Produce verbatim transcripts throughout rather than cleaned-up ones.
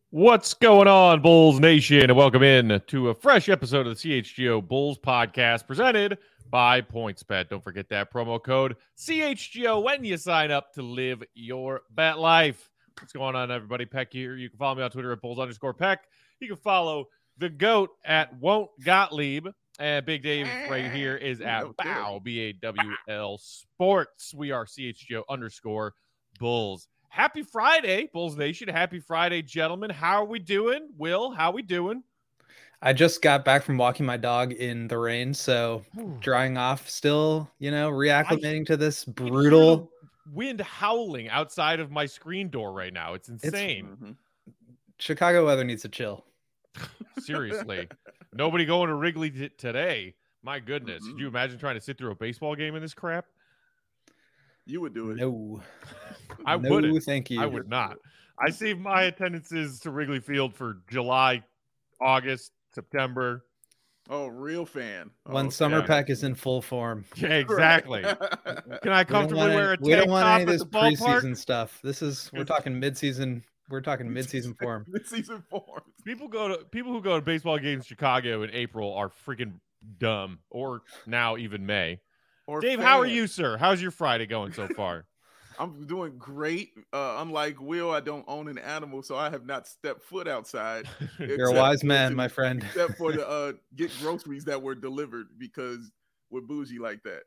What's going on, Bulls Nation? And welcome in to a fresh episode of the C H G O Bulls podcast presented by PointsBet. Don't forget that promo code C H G O when you sign up to live your bet life. What's going on, everybody? Peck here. You can follow me on Twitter at Bulls underscore Peck. You can follow the GOAT at Won't Gottlieb. And Big Dave right here is at Bow, B A W L Sports. We are C H G O underscore Bulls. Happy Friday, Bulls Nation. Happy Friday, gentlemen. How are we doing? Will, how are we doing? I just got back from walking my dog in the rain, so drying off still, you know, reacclimating I, to this brutal wind howling outside of my screen door right now. It's insane. It's, Chicago weather needs to chill. Seriously. Nobody going to Wrigley t- today. My goodness. Mm-hmm. Could you imagine trying to sit through a baseball game in this crap? You would do it. No. I no, wouldn't. Thank you. I would not. I save my attendances to Wrigley Field for July, August, September. Oh, real fan. When oh, Summer yeah. Peck is in full form. Yeah, exactly. Can I comfortably wear a tank We don't want top any of this at the ballpark? preseason stuff. This is we're talking midseason. We're talking midseason form. Midseason form. People go to people who go to baseball games in Chicago in April are freaking dumb, or now even May. Or Dave, fan. how are you, sir? How's your Friday going so far? I'm doing great. Uh, unlike Will, I don't own an animal, so I have not stepped foot outside. You're a wise man, my friend. Except for the uh, get groceries that were delivered, because we're bougie like that.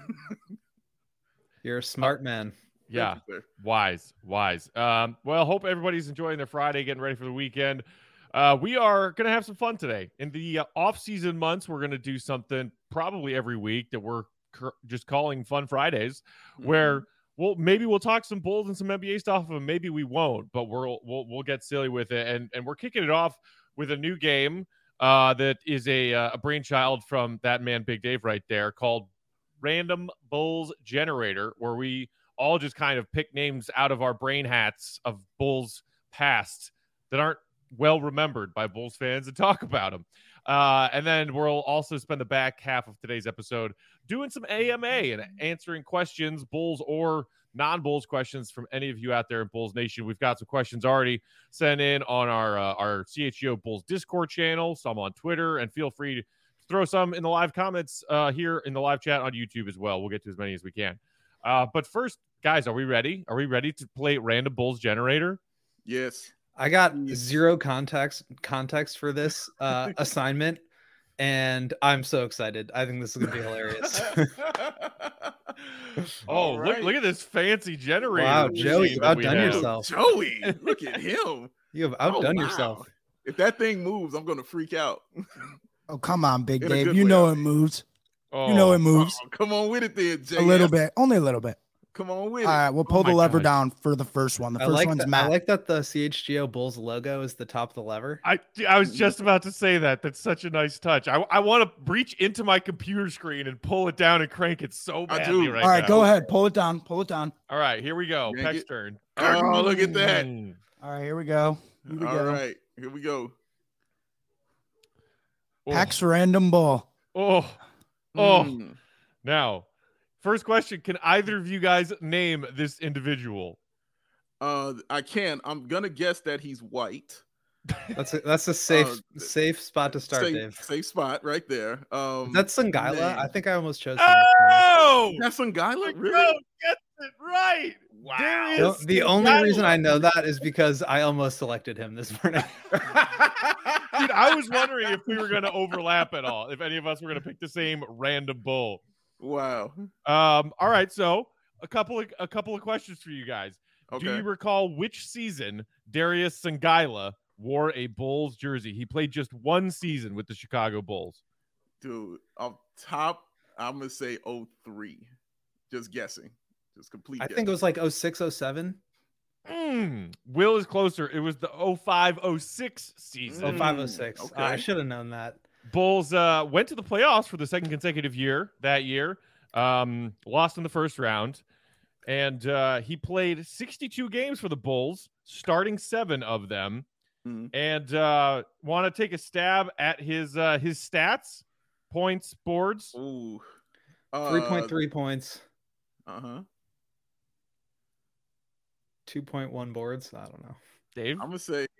You're a smart man. Yeah, you, wise, wise. Um, well, hope everybody's enjoying their Friday, getting ready for the weekend. Uh, we are going to have some fun today. In the uh, off-season months, we're going to do something probably every week that we're cr- just calling Fun Fridays, mm-hmm. where well, maybe we'll talk some Bulls and some N B A stuff, and maybe we won't, but we'll we'll we'll get silly with it. And and we're kicking it off with a new game uh, that is a uh, a brainchild from that man Big Dave right there, called Random Bulls Generator, where we all just kind of pick names out of our brain hats of Bulls past that aren't well remembered by Bulls fans and talk about them. Uh, and then we'll also spend the back half of today's episode doing some A M A and answering questions, Bulls or non-Bulls questions from any of you out there in Bulls Nation. We've got some questions already sent in on our uh, our C H G O Bulls Discord channel, some on Twitter, and feel free to throw some in the live comments uh, here in the live chat on YouTube as well. We'll get to as many as we can. Uh, but first, guys, are we ready? Are we ready to play Random Bulls Generator? Yes. I got zero context context for this uh, assignment, and I'm so excited. I think this is gonna be hilarious. oh, right. look! Look at this fancy generator! Wow, Joey, you've outdone yourself. Joey, look at him. You have outdone oh, wow. yourself. If that thing moves, I'm gonna freak out. Oh, come on, Big Dave. You know it moves. Oh. You know it moves. Oh, come on with it, then, Jay. A little bit, only a little bit. Come on with it. All right, we'll pull oh the lever God. down for the first one. The I first like one's that, Matt. I like that the C H G O Bulls logo is the top of the lever. I I was just about to say that. That's such a nice touch. I I want to reach into my computer screen and pull it down and crank it so badly I do. right All right, now. go ahead. Pull it down. Pull it down. All right, here we go. Yank Peck's it. turn. Oh, look at that. Mm. All right, here we go. Here we All go. right, here we go. Oh. Peck's random ball. Oh, oh. Mm. Now, first question: can either of you guys name this individual? Uh, I can. I'm gonna guess that he's white. That's a, that's a safe Uh, safe spot to start, safe, Dave. Safe spot right there. Um, That's Sangaila. man. I think I almost chose. him. Oh, That's Sangaila, the really? goat gets it right. Wow. Darius The, the only Sangaila. reason I know that is because I almost selected him this morning. Dude, I was wondering if we were going to overlap at all, if any of us were going to pick the same random bull. Wow. Um, all right, so a couple of a couple of questions for you guys. Okay. Do you recall which season Darius Sangaila wore a Bulls jersey? He played just one season with the Chicago Bulls. Dude, off top, I'm gonna say oh three. Just guessing. Just complete. I guess. think it was like oh six, oh seven. Mm, Will is closer. It was the oh five oh six season. oh five, oh six. okay. Uh, I should have known that. Bulls uh, went to the playoffs for the second consecutive year that year. Um, lost in the first round. And uh, he played sixty-two games for the Bulls, starting seven of them. Mhm. And uh, want to take a stab at his uh, his stats, points, boards. Ooh. three point three points, Uh huh. two point one boards. I don't know. Dave, I'm gonna say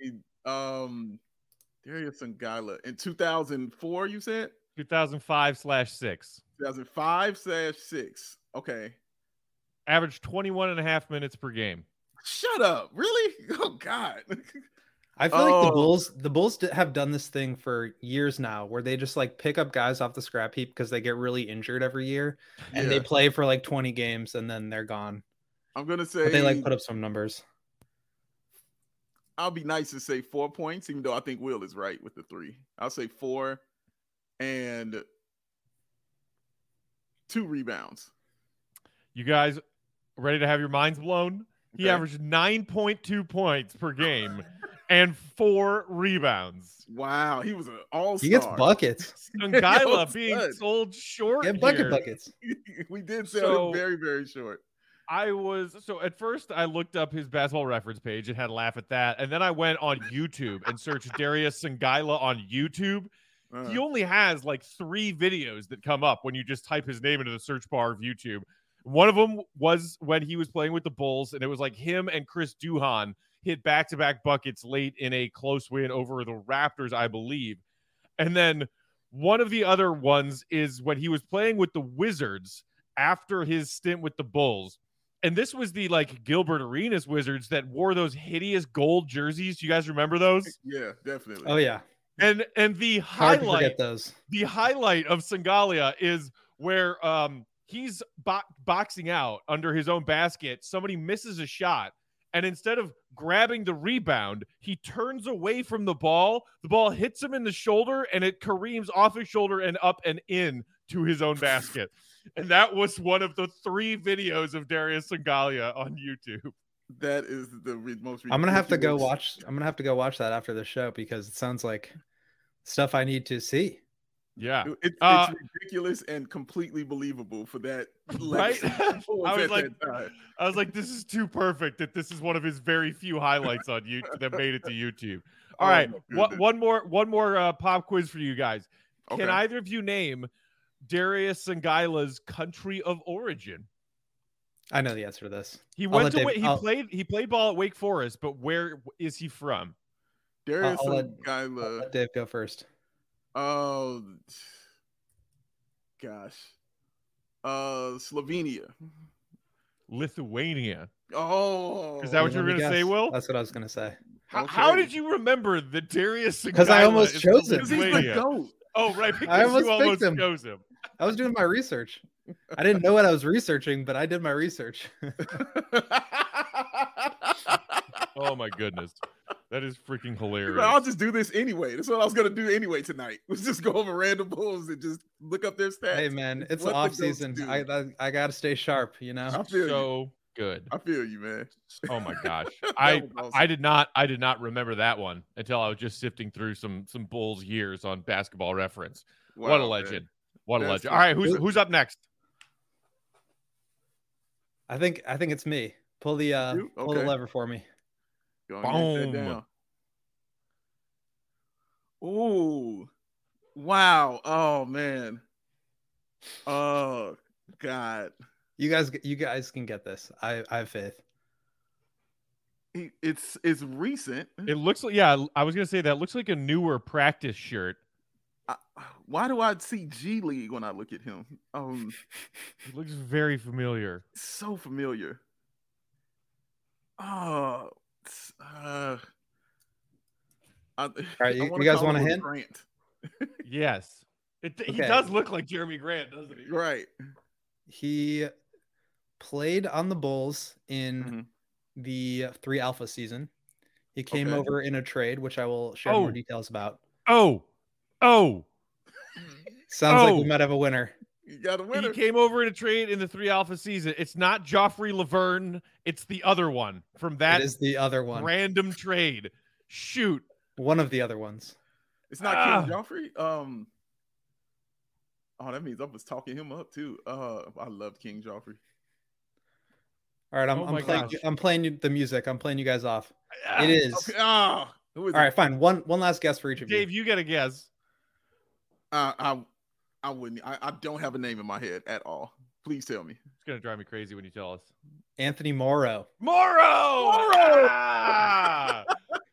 Um, Darius Sangala in two thousand four. You said two thousand five slash six. two thousand five slash six. Okay. Averaged twenty-one and a half minutes per game. Shut up. Really? Oh God. I feel like the Oh. Bulls, the Bulls d- have done this thing for years now, where they just like pick up guys off the scrap heap because they get really injured every year, and they Yeah. play for like twenty games and then they're gone. I'm gonna say But they like put up some numbers. I'll be nice to say four points, even though I think Will is right with the three. I'll say four and two rebounds. You guys ready to have your minds blown? He Okay. averaged nine point two points per game and four rebounds. Wow, he was an all-star. He gets buckets. Sangala Yo, being son. sold short Get bucket here. buckets. We did sell So- him very, very short. I was so at first I looked up his basketball reference page and had a laugh at that, and then I went on YouTube and searched Darius Sangala on YouTube. Uh, He only has like three videos that come up when you just type his name into the search bar of YouTube. One of them was when he was playing with the Bulls, and it was like him and Chris Duhon hit back-to-back buckets late in a close win over the Raptors, I believe. And then one of the other ones is when he was playing with the Wizards after his stint with the Bulls. And this was the like Gilbert Arenas Wizards that wore those hideous gold jerseys. Do you guys remember those? yeah, definitely. Oh yeah, And and the hard to highlight forget those. the highlight of Sangalia is where um he's bo- boxing out under his own basket. Somebody misses a shot, and instead of grabbing the rebound, he turns away from the ball. The ball hits him in the shoulder, and it careens off his shoulder and up and in to his own basket. And that was one of the three videos of Darius Sangalia on YouTube. That is the re- most. I'm gonna have to go ridiculous- watch. I'm gonna have to go watch that after the show because it sounds like stuff I need to see. Yeah. It- It's, Uh, it's ridiculous and completely believable for that. Right? legacy was I was at like, that time. I was like, this is too perfect that this is one of his very few highlights on YouTube that made it to YouTube. All Oh, right, my one, goodness. one more, one more uh, pop quiz for you guys. Can Okay. either of you name Darius Sangaila's country of origin? I know the answer to this. He I'll went let to Dave- Wa- he I'll- played he played ball at Wake Forest, but where is he from? Darius I'll let- I'll Sangala. let Dave go first. Oh, gosh. Uh, Slovenia. Lithuania. Oh, Is that what you were Let me gonna say, guess. Will? That's what I was gonna say. How, how Okay. did you remember that Darius Sangaila? 'Cause I almost is chose from him. Because he's the Lithuania? goat. Oh, right, because almost you picked almost him. chose him. I was doing my research. I didn't know what I was researching, but I did my research. Oh my goodness, that is freaking hilarious. But I'll just do this anyway. That's what I was gonna do anyway tonight. Was just go over random Bulls and just look up their stats. Hey man, it's What the off goats season. do. I, I I gotta stay sharp, you know. I feel you. so good. I feel you, man. Oh my gosh. That I was awesome. I did not I did not remember that one until I was just sifting through some some Bulls years on Basketball Reference. what a Wow, legend. man. What a That's legend. All right, who's good. who's up next? I think I think it's me. Pull the uh You? pull the Okay. lever for me. Go and get Boom. that down. Ooh. Wow. Oh man. Oh God. You guys you guys can get this. I I have faith. He- It's it's recent. It looks like yeah, I was gonna say that looks like a newer practice shirt. I, why do I see G League when I look at him? Um, It looks very familiar. so familiar. Oh, it's, uh, I, All right, you- you guys want a hint? Grant. Yes. It, He Okay. does look like Jeremy Grant, doesn't he? Right. He played on the Bulls in Mhm. the three alpha season. He came Okay. over in a trade, which I will share Oh. more details about. Oh. Oh. Sounds like we Oh. might have a winner. You got a He winner. came over in a trade in the three alpha season. It's not Joffrey Laverne. It's the other one from that It is the other one. random trade. Shoot. One of the other ones. It's not Ah. King Joffrey. Um. Oh, that means I was talking him up too. Uh, I loved King Joffrey. All right, I'm, Oh I'm my playing. gosh. I'm playing you the music. I'm playing you guys off. Ah, It is. Okay. Ah, who is All it? right, fine. One one last guess for each of Dave, you. you got to guess. Uh, I, I wouldn't. I, I don't have a name in my head at all. Please tell me. It's going to drive me crazy when you tell us. Anthony Morrow. Morrow! Morrow! Ah!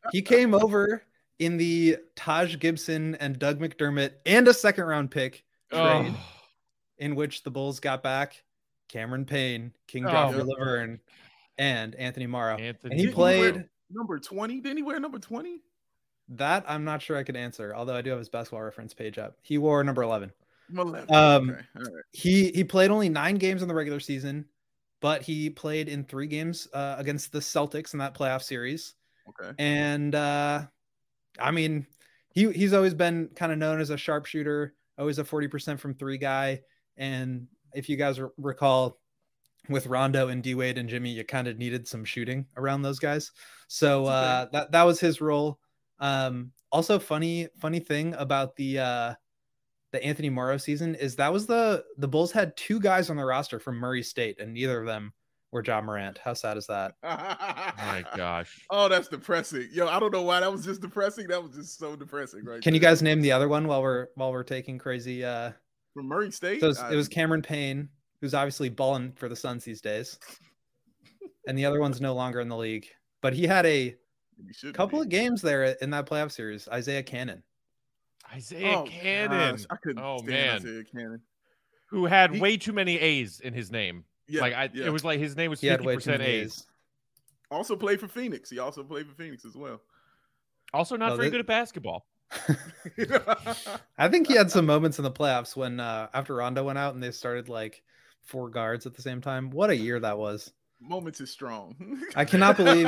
he came over in the Taj Gibson and Doug McDermott and a second round pick trade, Oh. in which the Bulls got back Cameron Payne, King Oh. Joffrey Laverne, and Anthony Morrow. Anthony And he Didn't he wear played number twenty. Didn't he wear number twenty? that. I'm not sure I could answer, although I do have his basketball reference page up. He wore number eleven. eleven. Um, Okay. All right. He he played only nine games in the regular season, but he played in three games uh, against the Celtics in that playoff series. Okay. And uh, I mean, he he's always been kind of known as a sharpshooter, always a forty percent from three guy. And if you guys re- recall, with Rondo and D Wade and Jimmy, you kind of needed some shooting around those guys. So uh, that that was his role. Um, also, funny funny thing about the uh, the Anthony Morrow season is that was the the Bulls had two guys on the roster from Murray State, and neither of them were Ja Morant. How sad is that? My gosh. Oh, that's depressing. Yo, I don't know why that was just depressing. That was just so depressing, right? Can you there. guys name the other one while we're while we're taking crazy? Uh, From Murray State? so it was, I- it was Cameron Payne, who's obviously balling for the Suns these days, and the other one's no longer in the league. But he had a he shouldn't couple be. of games there in that playoff series. Isaiah Cannon. Isaiah Oh, Cannon, gosh, I couldn't Oh, stand man. Isaiah Cannon. who had He- way too many A's in his name. Yeah, like I, yeah. it was like his name was He had fifty way too percent many A's. A's. Also played for Phoenix. He also played for Phoenix as well. Also, not No, very they- good at basketball. I think he had some moments in the playoffs when uh, after Rondo went out and they started like four guards at the same time. What a year that was! Moments is strong. I cannot believe.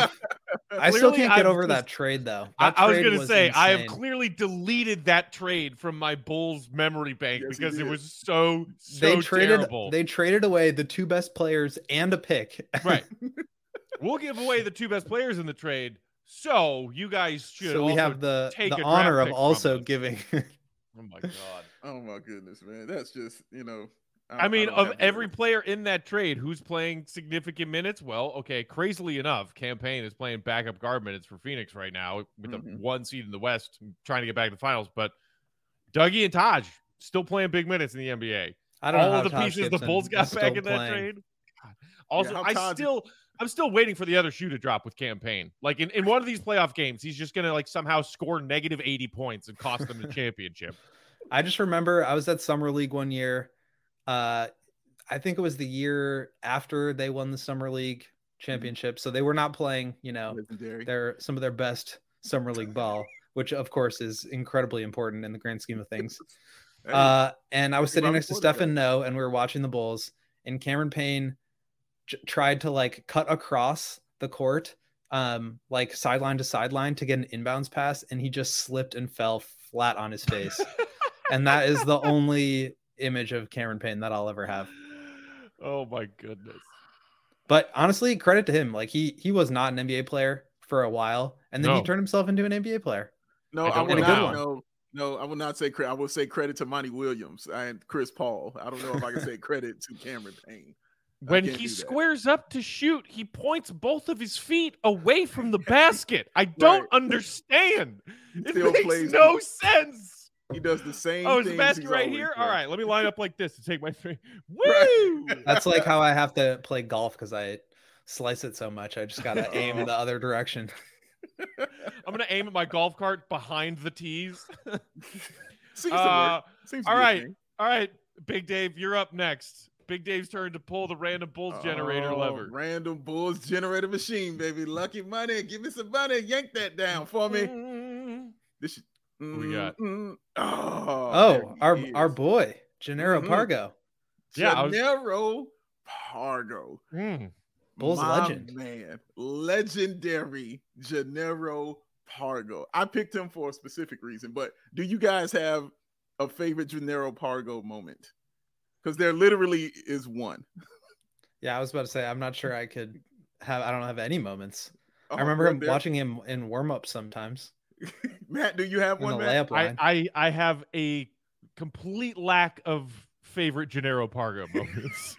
I still Clearly, can't get I've over that just- trade though. I, That I was trade going to say, I have insane. clearly deleted that trade from my Bulls memory bank Yes, he because it did. was so, so They traded. terrible. They traded away the two best players and a pick. Right. We'll give away the two best players in the trade. So you guys should so we also have the take the a draft honor of pick from also us. giving. Oh my god. Oh my goodness, man. That's just, you know. I mean, don't of have every words. player in that trade who's playing significant minutes, well, okay, crazily enough, Campaign is playing backup guard minutes for Phoenix right now with Mhm. the one seed in the West, trying to get back to the finals. But Dougie and Taj still playing big minutes in the N B A. I don't know All how of the Taj pieces the Gibson Bulls is got still back in that playing. trade. God. Also, how I Taj- still, I'm still waiting for the other shoe to drop with Campaign. Like in, in one of these playoff games, he's just gonna like somehow score negative eighty points and cost them the championship. I just remember I was at Summer League one year. Uh, I think it was the year after they won the Summer League championship. So they were not playing, you know, Legendary. their some of their best Summer League ball, which of course is incredibly important in the grand scheme of things. Hey, Uh, and I was Hey, sitting Robert next to Porter Stefan No, and we were watching the Bulls, and Cameron Payne j- tried to like cut across the court, um, like sideline to sideline to get an inbounds pass, and he just slipped and fell flat on his face. And that is the only image of Cameron Payne that I'll ever have. Oh my goodness. But honestly, credit to him. Like he he was not an N B A player for a while, and then he No. turned himself into an N B A player. no, I I, don't will know not. how. No, no, I will not say credit. I will say credit to Monty Williams and Chris Paul. I don't know if I can say credit to Cameron Payne. I When can't he do that. squares up to shoot, he points both of his feet away from the basket. I don't Right. understand. It Still makes plays no with- sense. He does the same. Oh, is the things basket he's right always here? done. All right, let me line up like this to take my three. Right. Woo! That's like how I have to play golf because I slice it so much. I just gotta aim in the other direction. I'm gonna aim at my golf cart behind the tees. Seems Uh, to work. Seems to all be a right. thing. All right, Big Dave, you're up next. Big Dave's turn to pull the random Bulls generator Oh, lever. Random Bulls generator machine, baby. Lucky money. Give me some money. Yank that down for me. Mm. This should, we got? Mm, mm. Oh, Oh, there our he our is. boy, Gennaro Mhm. Pargo. Yeah, I was- Gennaro Pargo. Mm. Bulls My legend. man, legendary Gennaro Pargo. I picked him for a specific reason, but do you guys have a favorite Gennaro Pargo moment? Because there literally is one. Yeah, I was about to say I'm not sure I could have. I don't have any moments. Oh, I remember well, him there- watching him in warm up sometimes Matt, do you have in one? the Matt? layup I, line. I I have a complete lack of favorite Gennaro Pargo moments.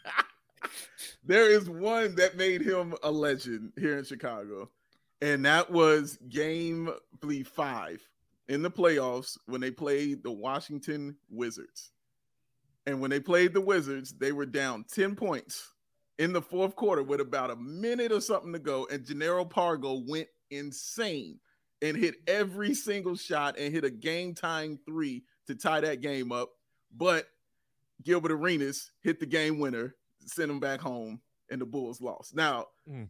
There is one that made him a legend here in Chicago, and that was game I believe five in the playoffs when they played the Washington Wizards. And when they played the Wizards, they were down ten points in the fourth quarter with about a minute or something to go, and Gennaro Pargo went insane. and hit every single shot and hit a game-tying three to tie that game up. But Gilbert Arenas hit the game winner, sent him back home, and the Bulls lost. Now, mm.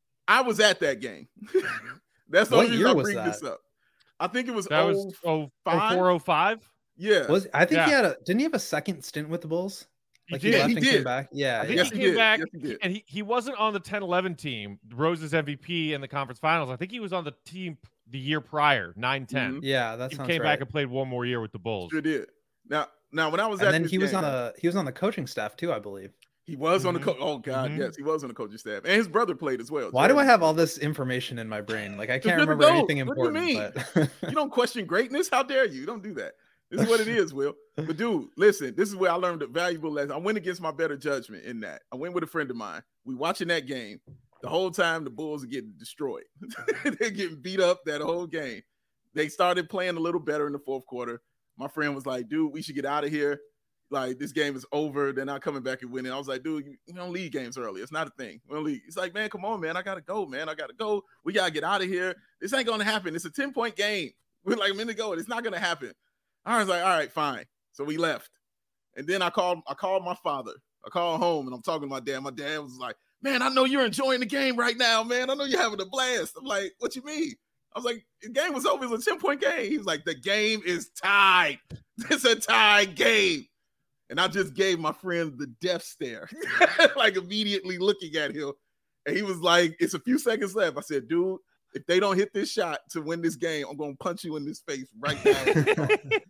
I was at that game. That's the only reason I bring this up. I think it was that was oh four oh five. Yeah, was I think yeah. he had a didn't he have a second stint with the Bulls? Like he, he, left he and did. Came back. Yeah, I think yeah. he came he back, yes, he and he, he wasn't on the ten eleven team, Rose's M V P in the conference finals. I think he was on the team the year prior, nine ten. Mm-hmm. Yeah, that he sounds came right. back and played one more year with the Bulls. Sure did. Now, now when I was and at then this he was game, on the he was on the coaching staff too, I believe. He was mm-hmm. on the coach. Oh God, mm-hmm. yes, he was on the coaching staff, and his brother played as well. Why Jeremy. do I have all this information in my brain? Like I can't remember go. anything what important. Do you, mean? But... you don't question greatness. How dare you? You don't do that. This is what it is, Will. But dude, listen, this is where I learned a valuable lesson. I went against my better judgment in that. I went with a friend of mine. We watching that game. The whole time the Bulls are getting destroyed. They're getting beat up that whole game. They started playing a little better in the fourth quarter. My friend was like, dude, we should get out of here. Like, this game is over. They're not coming back and winning. I was like, dude, you, you don't leave games early. It's not a thing. We don't leave. He's like, man, come on, man. I got to go, man. I got to go. We got to get out of here. This ain't going to happen. It's a ten-point game. We're like a minute ago. It's not going to happen. I was like, all right, fine. So we left. And then I called I called my father. I called home, and I'm talking to my dad. My dad was like, man, I know you're enjoying the game right now, man. I know you're having a blast. I'm like, what you mean? I was like, the game was over. It was a ten-point game. He was like, the game is tied. It's a tied game. And I just gave my friend the death stare, like immediately looking at him. And he was like, it's a few seconds left. I said, dude, if they don't hit this shot to win this game, I'm going to punch you in this face right now.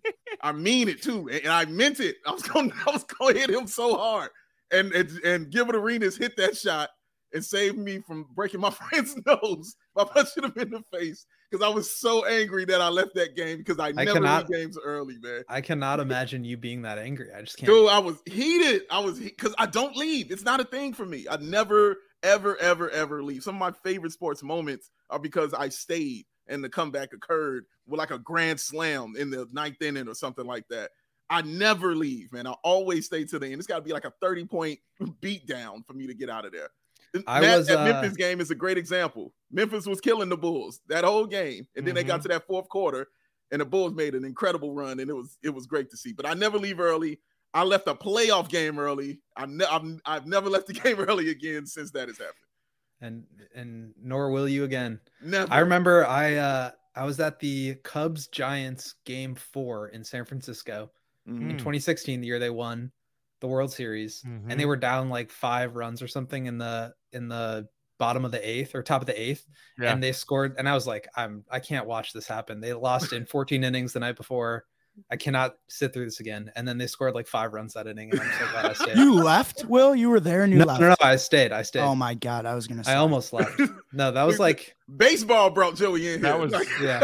I mean it too. And I meant it. I was going I was going to hit him so hard. And, and, and Gilbert Arenas hit that shot and saved me from breaking my friend's nose by punching him in the face. Because I was so angry that I left that game because I, I never cannot, leave games early, man. I cannot imagine you being that angry. I just can't. Dude, I was heated. I was because I don't leave. It's not a thing for me. I never, ever, ever, ever leave. Some of my favorite sports moments are because I stayed and the comeback occurred with like a grand slam in the ninth inning or something like that. I never leave, man. I always stay to the end. It's got to be like a thirty-point beat down for me to get out of there. I that, was, that uh, Memphis game is a great example. Memphis was killing the Bulls that whole game, and then mm-hmm. they got to that fourth quarter, and the Bulls made an incredible run, and it was it was great to see. But I never leave early. I left a playoff game early. I ne- I've, I've never left the game early again since that has happened. And and nor will you again. Never. I remember I uh, I was at the Cubs Giants game four in San Francisco mm-hmm. in twenty sixteen, the year they won the World Series, mm-hmm. and they were down like five runs or something in the in the bottom of the eighth or top of the eighth, yeah. and they scored. And I was like, I'm I can't watch this happen. They lost in fourteen innings the night before. I cannot sit through this again. And then they scored like five runs that inning, and I'm so glad I stayed. You left, Will? You were there and you no, left? No, no, I stayed. I stayed. Oh my God, I was gonna say I almost left. No, that was like baseball brought Joey in. That here. was yeah.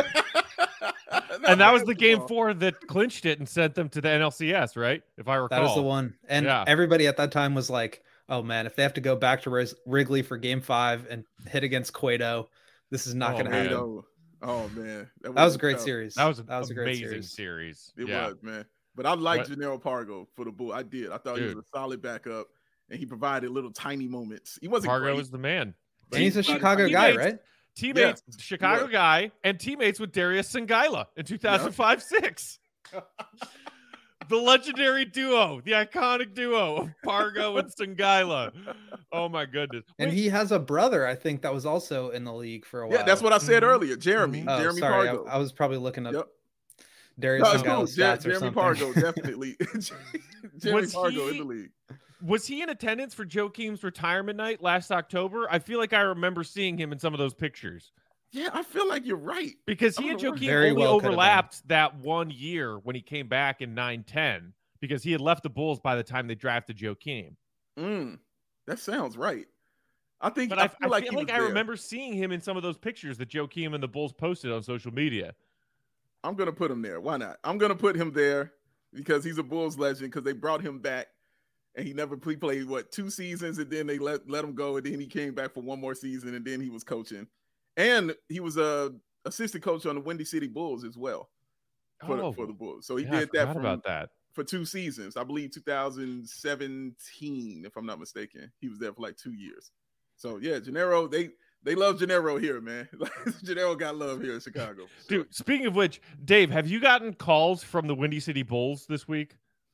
And that was the game four that clinched it and sent them to the N L C S, right? If I recall. That was the one. And yeah. everybody at that time was like, oh man, if they have to go back to Wrigley for game five and hit against Cueto, this is not oh, going to happen. Oh man. That was, that was a great tough. series. That was, that was a great series. series. It yeah. was, man. But I liked Jannero Pargo for the Bull. I did. I thought Dude. he was a solid backup, and he provided little tiny moments. He wasn't Pargo great, was the man. And he's a Chicago guy, right? Teammates, yeah. Chicago guy, and teammates with Darius Sangaila in two thousand five six. The legendary duo, the iconic duo of Pargo and Sangaila. Oh my goodness! And Wait. he has a brother, I think, that was also in the league for a while. Yeah, that's what I said mm-hmm. earlier. Jeremy, oh, Jeremy sorry, Pargo. I, I was probably looking up yep. Darius no, Sangaila's cool. stats Jer- or Jeremy something. Pargo, definitely. Jeremy was Pargo he, in the league. Was he in attendance for Joakim's retirement night last October? I feel like I remember seeing him in some of those pictures. Yeah, I feel like you're right. Because he and Joakim only well overlapped that one year when he came back in nine ten, because he had left the Bulls by the time they drafted Joakim. Mm, that sounds right. I think, but I, I feel I like, feel he like was I there. remember seeing him in some of those pictures that Joakim and the Bulls posted on social media. I'm going to put him there. Why not? I'm going to put him there because he's a Bulls legend, because they brought him back and he never he played, what, two seasons, and then they let, let him go, and then he came back for one more season, and then he was coaching. And he was a assistant coach on the Windy City Bulls as well for, oh, the, for the Bulls. So he yeah, did that, from, about that for two seasons. I believe two thousand seventeen, if I'm not mistaken. He was there for like two years. So, yeah, Jannero, they They love Gennaro here, man. Gennaro got love here in Chicago. Sure. Dude, speaking of which, Dave, have you gotten calls from the Windy City Bulls this week?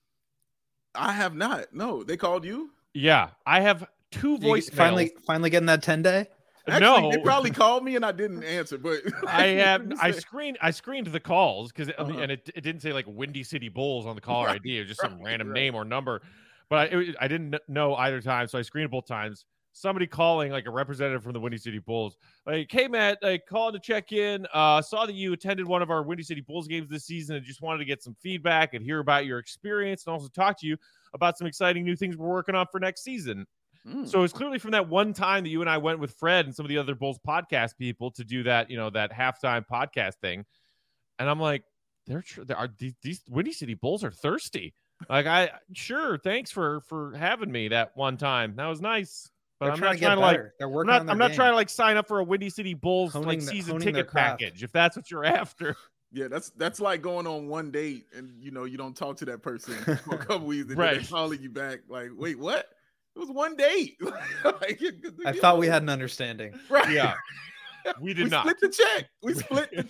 I have not. No, they called you? Yeah, I have two voice finally finally getting that ten day. Actually, no, they probably called me and I didn't answer, but I have I screened I screened the calls because Uh-huh. and it, it didn't say like Windy City Bulls on the caller Right, I D. It was just some right, random right. name or number, but I, it, I didn't know either time, so I screened both times. Somebody calling like a representative from the Windy City Bulls, like, "Hey Matt, like calling to check in. Uh, saw that you attended one of our Windy City Bulls games this season, and just wanted to get some feedback and hear about your experience, and also talk to you about some exciting new things we're working on for next season." Mm. So it's clearly from that one time that you and I went with Fred and some of the other Bulls podcast people to do that, you know, that halftime podcast thing. And I'm like, they're, tr- they are these, these Windy City Bulls are thirsty. Like, I sure, thanks for for having me that one time. That was nice. But They're I'm trying not to get trying to like better. They're I'm working not on their I'm not game. trying to like sign up for a Windy City Bulls Honing like the- season honing their ticket craft. package if that's what you're after. Yeah, that's that's like going on one date and you know you don't talk to that person for a couple weeks and Right. then they're calling you back like, wait, what? It was one date. Like, I thought we had an understanding. right. Yeah. We did we not. split the check. We split the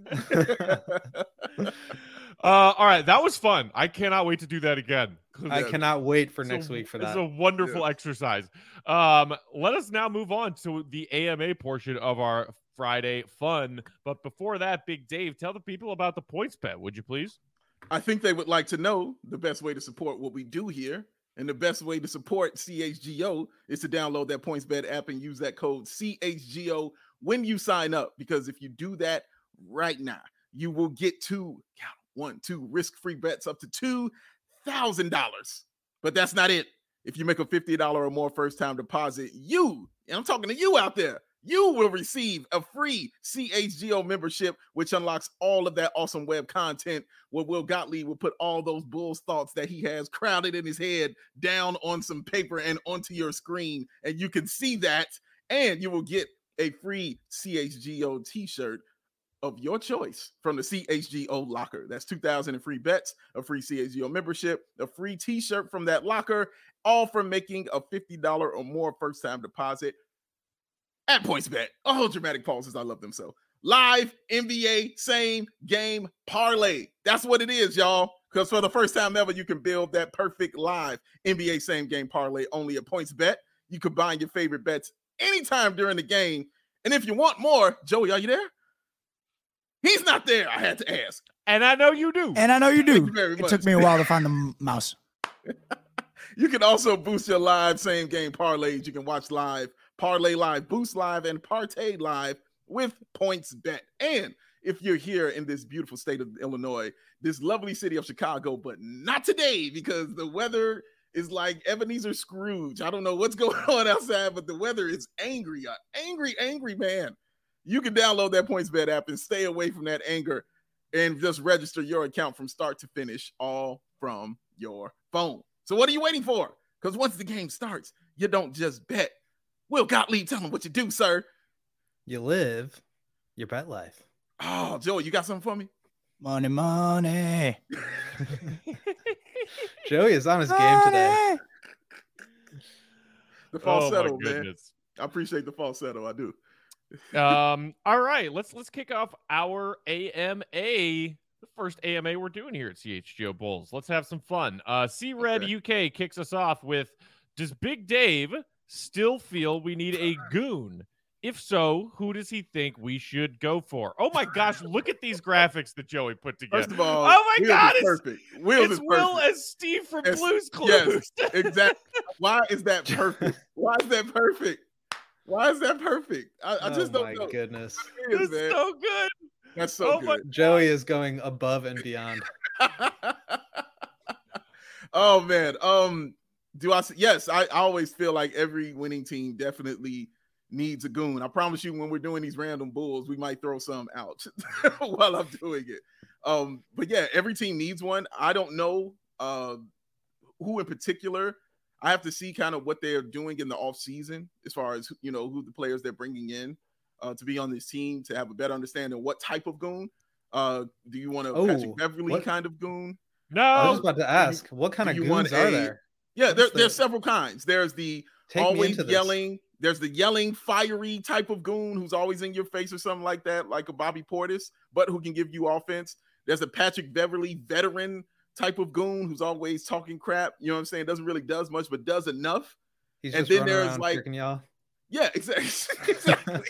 check. Uh, all right, that was fun. I cannot wait to do that again. I Yeah. cannot wait for It's next a- week for It's that. a wonderful exercise. Um, let us now move on to the A M A portion of our Friday fun. But before that, Big Dave, tell the people about the points bet, would you please? I think they would like to know the best way to support what we do here. And the best way to support C H G O is to download that PointsBet app and use that code C H G O when you sign up. Because if you do that right now, you will get two, count one, two risk-free bets up to two thousand dollars. But that's not it. If you make a fifty dollars or more first-time deposit, you, and I'm talking to you out there, you will receive a free C H G O membership, which unlocks all of that awesome web content where Will Gottlieb will put all those Bulls thoughts that he has crowded in his head down on some paper and onto your screen. And you can see that. And you will get a free C H G O t-shirt of your choice from the C H G O locker. That's two thousand in free bets, a free C H G O membership, a free t-shirt from that locker, all for making a fifty dollars or more first-time deposit at PointsBet. Oh, dramatic pauses. I love them so. Live N B A same game parlay. That's what it is, y'all. Because for the first time ever, you can build that perfect live N B A same game parlay only at PointsBet. You combine your favorite bets anytime during the game. And if you want more, Joey, are you there? He's not there. I had to ask. And I know you do. And I know you Thank do. you very It much. took me a while to find the m- mouse. You can also boost your live same game parlays. You can watch live, parlay live, boost live, and partay live with PointsBet. And if you're here in this beautiful state of Illinois, this lovely city of Chicago, but not today because the weather is like Ebenezer Scrooge. I don't know what's going on outside, but the weather is angry, an angry, angry man. You can download that PointsBet app and stay away from that anger and just register your account from start to finish, all from your phone. So what are you waiting for? Because once the game starts, you don't just bet. Will Gottlieb, tell them what you do, sir. You live your bet life. Oh, Joey, you got something for me? Money, money. Joey is on his game today. Money. The Oh my falsetto, man. goodness. I appreciate the falsetto. I do. um, all right, let's let's kick off our A M A. The first A M A we're doing here at C H G O Bulls. Let's have some fun. Uh, C Red Okay. U K kicks us off with: does Big Dave still feel we need a goon? If so, who does he think we should go for? Oh my gosh, look at these graphics that Joey put together. First of all, Oh my Wills God, is it's- perfect. Wills it's is Will perfect. as Steve from It's- Blue's Clues. Yes, exactly. Why is that perfect? Why is that perfect? Why is that perfect? I, I just oh don't my know. goodness. It is, It's man. so good. That's so Oh my- good. Joey is going above and beyond. Oh man. Um, do I? Yes, I, I always feel like every winning team definitely needs a goon. I promise you, when we're doing these random bulls, we might throw some out while I'm doing it. Um, but yeah, every team needs one. I don't know uh, who in particular. I have to see kind of what they're doing in the off season as far as, you know, who the players they're bringing in uh, to be on this team to have a better understanding of what type of goon. Uh, do you want a Oh, Patrick Beverly what- kind of goon? No. I was about to ask, what kind do of you goons want are a- there? Yeah, there, What's the- there's several kinds. There's the Take me always into this. yelling. There's the yelling, fiery type of goon who's always in your face or something like that, like a Bobby Portis, but who can give you offense. There's a Patrick Beverly veteran type of goon who's always talking crap. You know what I'm saying? Doesn't really does much, but does enough. He's and just then running there's around like, kicking y'all. yeah, exactly. exactly.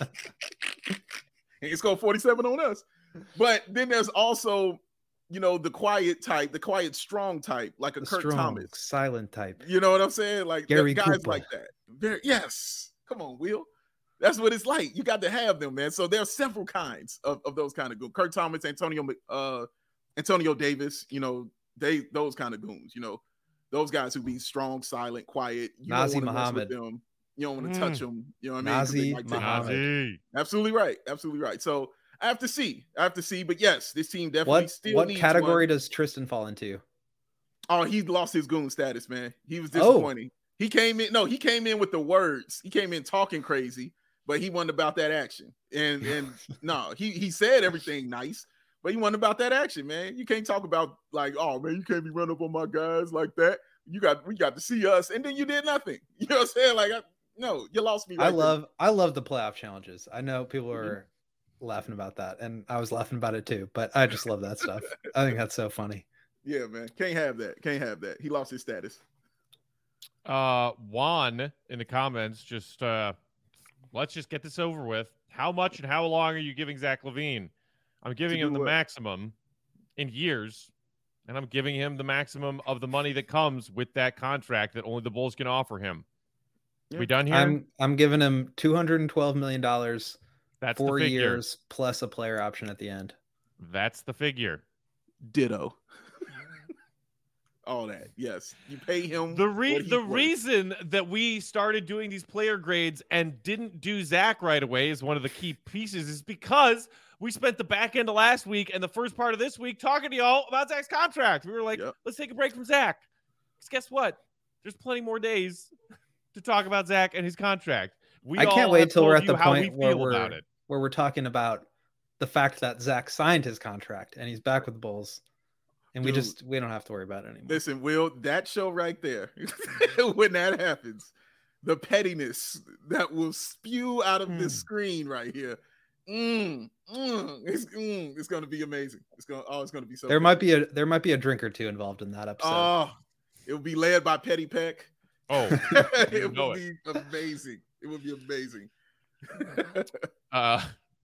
He scored forty-seven on us. But then there's also, you know, the quiet type, the quiet, strong type, like a The Kurt strong, Thomas. silent type. You know what I'm saying? Like Gary guys Cooper. like that. Very, yes. Come on, Will. That's what it's like. You got to have them, man. So there are several kinds of, of those kind of goons. Kurt Thomas, Antonio, uh, Antonio Davis, you know, they those kind of goons, you know, those guys who be strong, silent, quiet. You Nazi don't want to mess with Muhammad. them. You don't want to Mm. touch them. You know what I mean? 'Cause they Nazi might take- Muhammad. Nazi. Absolutely right. Absolutely right. So I have to see. I have to see. But yes, this team definitely What still what needs category one. does Tristan fall into? Oh, he lost his goon status, man. He was Oh. disappointing. He came in. No, he came in with the words. He came in talking crazy, but he wasn't about that action. And and no, he he said everything nice, but he wasn't about that action, man. You can't talk about like, oh man, you can't be running up on my guys like that. You got we got to see us, and then you did nothing. You know what I'm saying? Like, I, no, you lost me. I right there. love I love the playoff challenges. I know people Mhm. are laughing about that, and I was laughing about it too. But I just love that stuff. I think that's so funny. Yeah, man. Can't have that. Can't have that. He lost his status. Uh, Juan in the comments, just uh, let's just get this over with. How much and how long are you giving Zach LaVine? I'm giving To do him the what? maximum in years, and I'm giving him the maximum of the money that comes with that contract that only the Bulls can offer him. Yeah. We done here? I'm I'm giving him two hundred twelve million dollars, That's four the figure. years plus a player option at the end. That's the figure. Ditto. All that. Yes. You pay him. The re- what he's the worth. reason that we started doing these player grades and didn't do Zach right away is one of the key pieces is because we spent the back end of last week and the first part of this week talking to y'all about Zach's contract. We were like, Yep. let's take a break from Zach. Because guess what? There's plenty more days to talk about Zach and his contract. We I can't all wait have till we're told at the you how we point where feel we're about it. where we're talking about the fact that Zach signed his contract and he's back with the Bulls, and we Dude. just we don't have to worry about it anymore. Listen, Will, that show right there, when that happens, the pettiness that will spew out of this Mm. screen right here, mm, mm, it's, mm, it's going to be amazing. It's going, oh, it's going to be so. There good. might be a there might be a drink or two involved in that episode. Oh, it will be led by Petty Peck. Oh, you it know will it. be amazing. It will be amazing. Uh,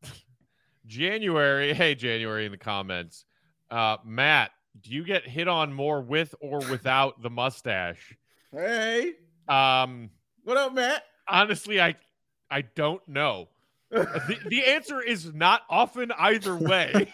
January. Hey, January in the comments. Uh, Matt, do you get hit on more with or without the mustache? Hey, Um, what up, Matt? honestly, I I don't know. The, the answer is not often either way.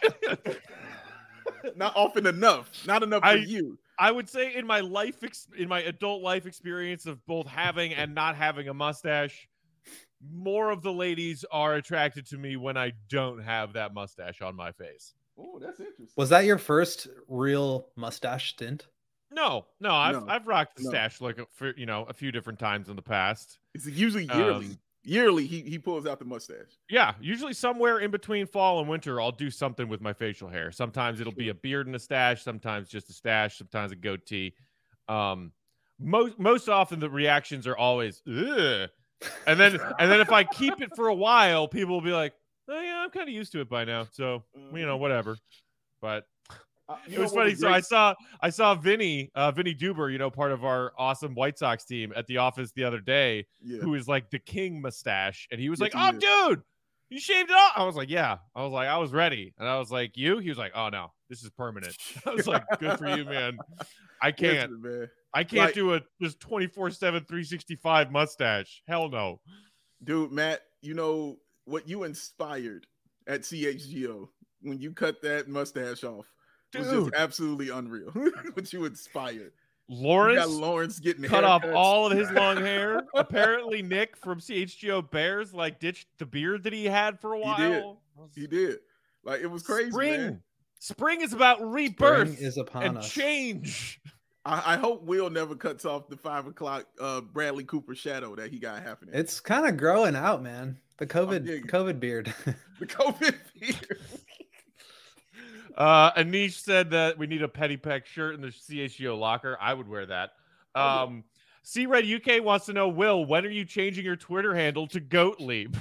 Not often enough. Not enough I- for you. I would say in my life, ex- in my adult life experience of both having and not having a mustache, more of the ladies are attracted to me when I don't have that mustache on my face. Oh, that's interesting. Was that your first real mustache stint? No, no, I've No, I've rocked the no. stash like a, for, you know a few different times in the past. It's usually yearly. Um, yearly, he he pulls out the mustache. Yeah, usually somewhere in between fall and winter, I'll do something with my facial hair. Sometimes it'll be a beard and a stash, sometimes just a stash, sometimes a goatee. Um, most most often the reactions are always, ugh. And then and then if I keep it for a while, people will be like, oh yeah, I'm kind of used to it by now, so you know whatever. But Uh, you it know was what funny. So great? I saw I saw Vinny uh, Vinny Duber, you know, part of our awesome White Sox team at the office the other day, Yeah. who is like the king mustache, and he was Yes, like, he "Oh, dude, you shaved it off." I was like, "Yeah." I was like, "I was ready," and I was like, "You?" He was like, "Oh no, this is permanent." I was like, "Good for you, man. I can't. Listen, man. I can't like- do a just twenty-four seven, three sixty-five mustache. Hell no." Dude, Matt, you know what you inspired at C H G O when you cut that mustache off was just Dude. absolutely unreal. What you inspired. You got Lawrence Lawrence getting cut off haircuts. all of his long hair. Apparently, Nick from C H G O Bears like ditched the beard that he had for a He while. did. He did. Like it was crazy, Spring. man. Spring is about rebirth Spring is upon and us. change. I, I hope Will never cuts off the five o'clock uh, Bradley Cooper shadow that he got happening. It's kind of growing out, man. The COVID digging. COVID beard. the COVID fear. Uh, Anish said that we need a Petty Peck shirt in the C H G O locker. I would wear that. Oh, yeah. Um, C Red U K wants to know, Will, when are you changing your Twitter handle to Goatlieb?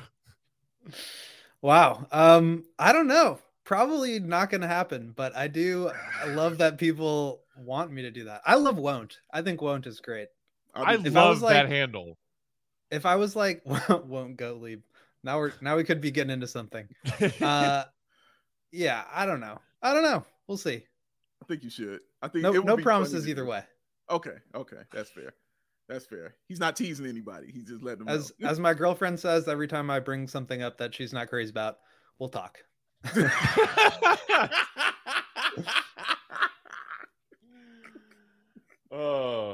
Wow. Um, I don't know. Probably not going to happen, but I do I love that people want me to do that. I love Won't. I think Won't is great. I If love I was like- that handle. If I was like, Won't Goatlieb, now we're now we could be getting into something. Uh, yeah, I don't know. I don't know. We'll see. I think you should. I think No, it would no be promises funny to either do. way. Okay, okay, that's fair. That's fair. He's not teasing anybody. He's just letting them As know. as my girlfriend says, every time I bring something up that she's not crazy about, we'll talk. Oh.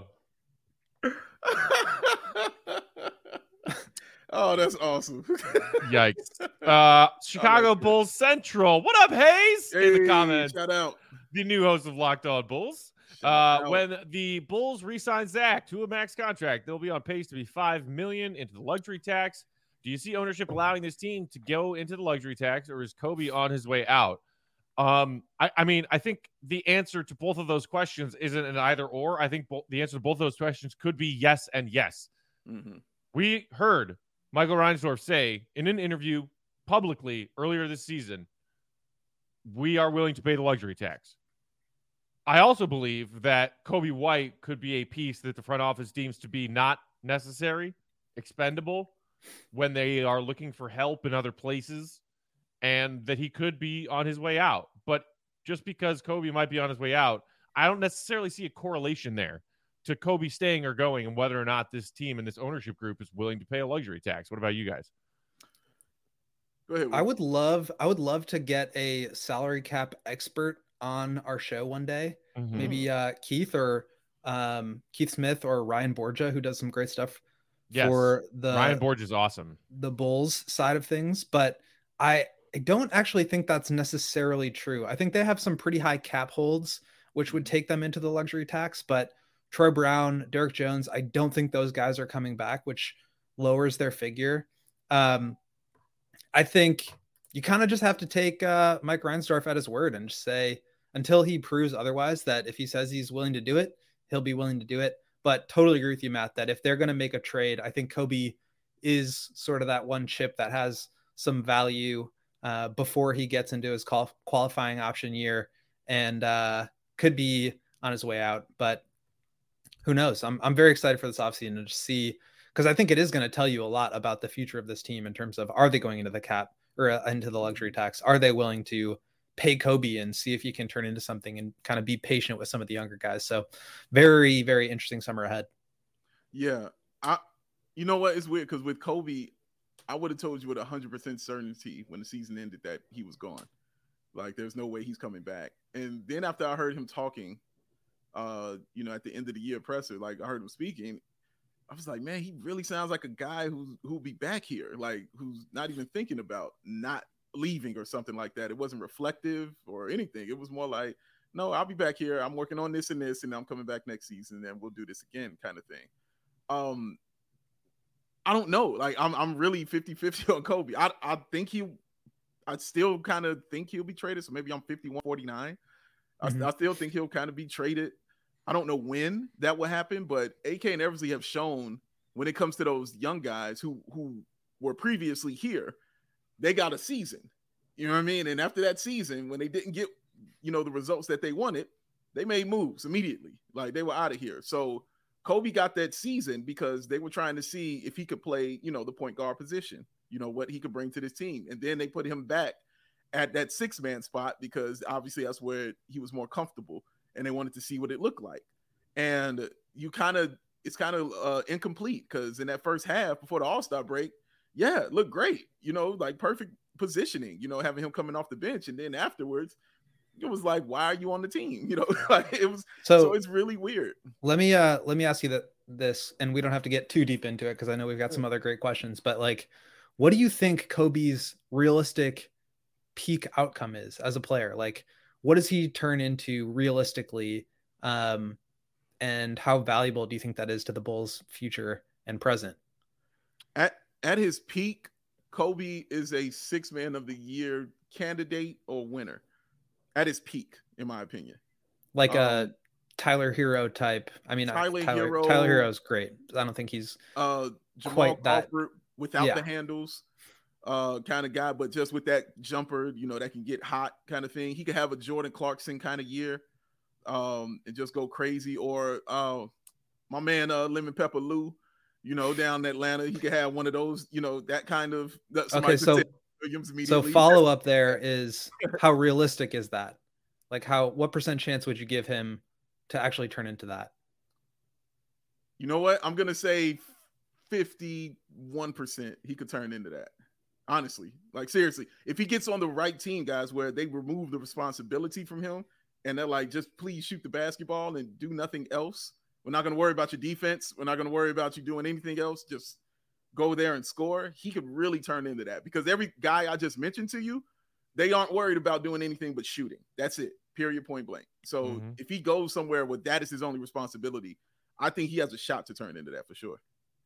Oh, that's awesome. Yikes. Uh, Chicago good. Bulls Central. What up, Hayes? In the Hey, comments, shout out. the new host of Locked On Bulls. Shout Uh, out. when the Bulls re-sign Zach to a max contract, they'll be on pace to be five million dollars into the luxury tax. Do you see ownership allowing this team to go into the luxury tax, or is Kobe on his way out? Um, I, I mean, I think the answer to both of those questions isn't an either or. I think bo- the answer to both of those questions could be yes and yes. Mhm. We heard Michael Reinsdorf say in an interview publicly earlier this season, we are willing to pay the luxury tax. I also believe that Kobe White could be a piece that the front office deems to be not necessary, expendable, when they are looking for help in other places, and that he could be on his way out. But just because Kobe might be on his way out, I don't necessarily see a correlation there to Kobe staying or going and whether or not this team and this ownership group is willing to pay a luxury tax. What about you guys? Go ahead. I Will. would love I would love to get a salary cap expert on our show one day. Mm-hmm. Maybe uh, Keith or um, Keith Smith or Ryan Borgia, who does some great stuff Yes. for the Ryan Borge is awesome. the Bulls side of things. But I, I don't actually think that's necessarily true. I think they have some pretty high cap holds, which would take them into the luxury tax. But Troy Brown, Derek Jones, I don't think those guys are coming back, which lowers their figure. Um, I think you kind of just have to take uh, Mike Reinsdorf at his word and just say, until he proves otherwise, that if he says he's willing to do it, he'll be willing to do it. But totally agree with you, Matt, that if they're going to make a trade, I think Kobe is sort of that one chip that has some value uh, before he gets into his qual- qualifying option year and uh, could be on his way out. But who knows? I'm I'm very excited for this offseason to just see, because I think it is going to tell you a lot about the future of this team in terms of, are they going into the cap or uh, into the luxury tax? Are they willing to pay Kobe and see if he can turn into something and kind of be patient with some of the younger guys? So very, very interesting summer ahead. Yeah. I you know what? It's weird because with Kobe, I would have told you with one hundred percent certainty when the season ended that he was gone. Like, there's no way he's coming back. And then after I heard him talking, uh, you know, at the end of the year presser, like I heard him speaking, I was like, man, he really sounds like a guy who's who'll be back here, like who's not even thinking about not leaving or something like that. It wasn't reflective or anything. It was more like, no, I'll be back here. I'm working on this and this, and I'm coming back next season, and we'll do this again, kind of thing. Um, I don't know. Like, I'm I'm really fifty-fifty on Kobe. I I think he, I still kind of think he'll be traded. So maybe I'm fifty-one forty-nine. Mm-hmm. I, I still think he'll kind of be traded. I don't know when that will happen, but A K and Eversley have shown when it comes to those young guys who who were previously here, they got a season. You know what I mean? And after that season, when they didn't get, you know, the results that they wanted, they made moves immediately. Like, they were out of here. So Kobe got that season because they were trying to see if he could play, you know, the point guard position, you know, what he could bring to this team. And then they put him back at that six man spot because obviously that's where he was more comfortable. And they wanted to see what it looked like. And you kind of, it's kind of uh, incomplete because in that first half before the All-Star break, yeah, it looked great. You know, like perfect positioning, you know, having him coming off the bench. And then afterwards, it was like, why are you on the team? You know, like it was, so, so it's really weird. Let me, uh, let me ask you that this, and we don't have to get too deep into it because I know we've got some other great questions, but like, what do you think Kobe's realistic peak outcome is as a player? Like, what does he turn into realistically? Um, and how valuable do you think that is to the Bulls' future and present? At at his peak, Kobe is a six man of the year candidate or winner. At his peak, in my opinion. Like um, a Tyler Hero type. I mean, Tyler, Tyler Hero, Tyler Hero's great. I don't think he's uh, Jamal quite that- Crawford without yeah. the handles, uh, kind of guy, but just with that jumper, you know, that can get hot kind of thing. He could have a Jordan Clarkson kind of year, um, and just go crazy. Or uh, my man, uh, Lemon Pepper Lou, you know, down in Atlanta, he could have one of those, you know, that kind of. That Okay, so Williams so immediately. follow up there is how realistic is that? Like, how what percent chance would you give him to actually turn into that? You know what? I'm gonna say fifty-one percent he could turn into that. Honestly, like seriously, if he gets on the right team, guys, where they remove the responsibility from him and they're like, just please shoot the basketball and do nothing else. We're not gonna worry about your defense. We're not gonna worry about you doing anything else. Just go there and score. He could really turn into that because every guy I just mentioned to you, they aren't worried about doing anything but shooting. That's it. Period. Point blank. So Mm-hmm. if he goes somewhere where that is his only responsibility, I think he has a shot to turn into that for sure.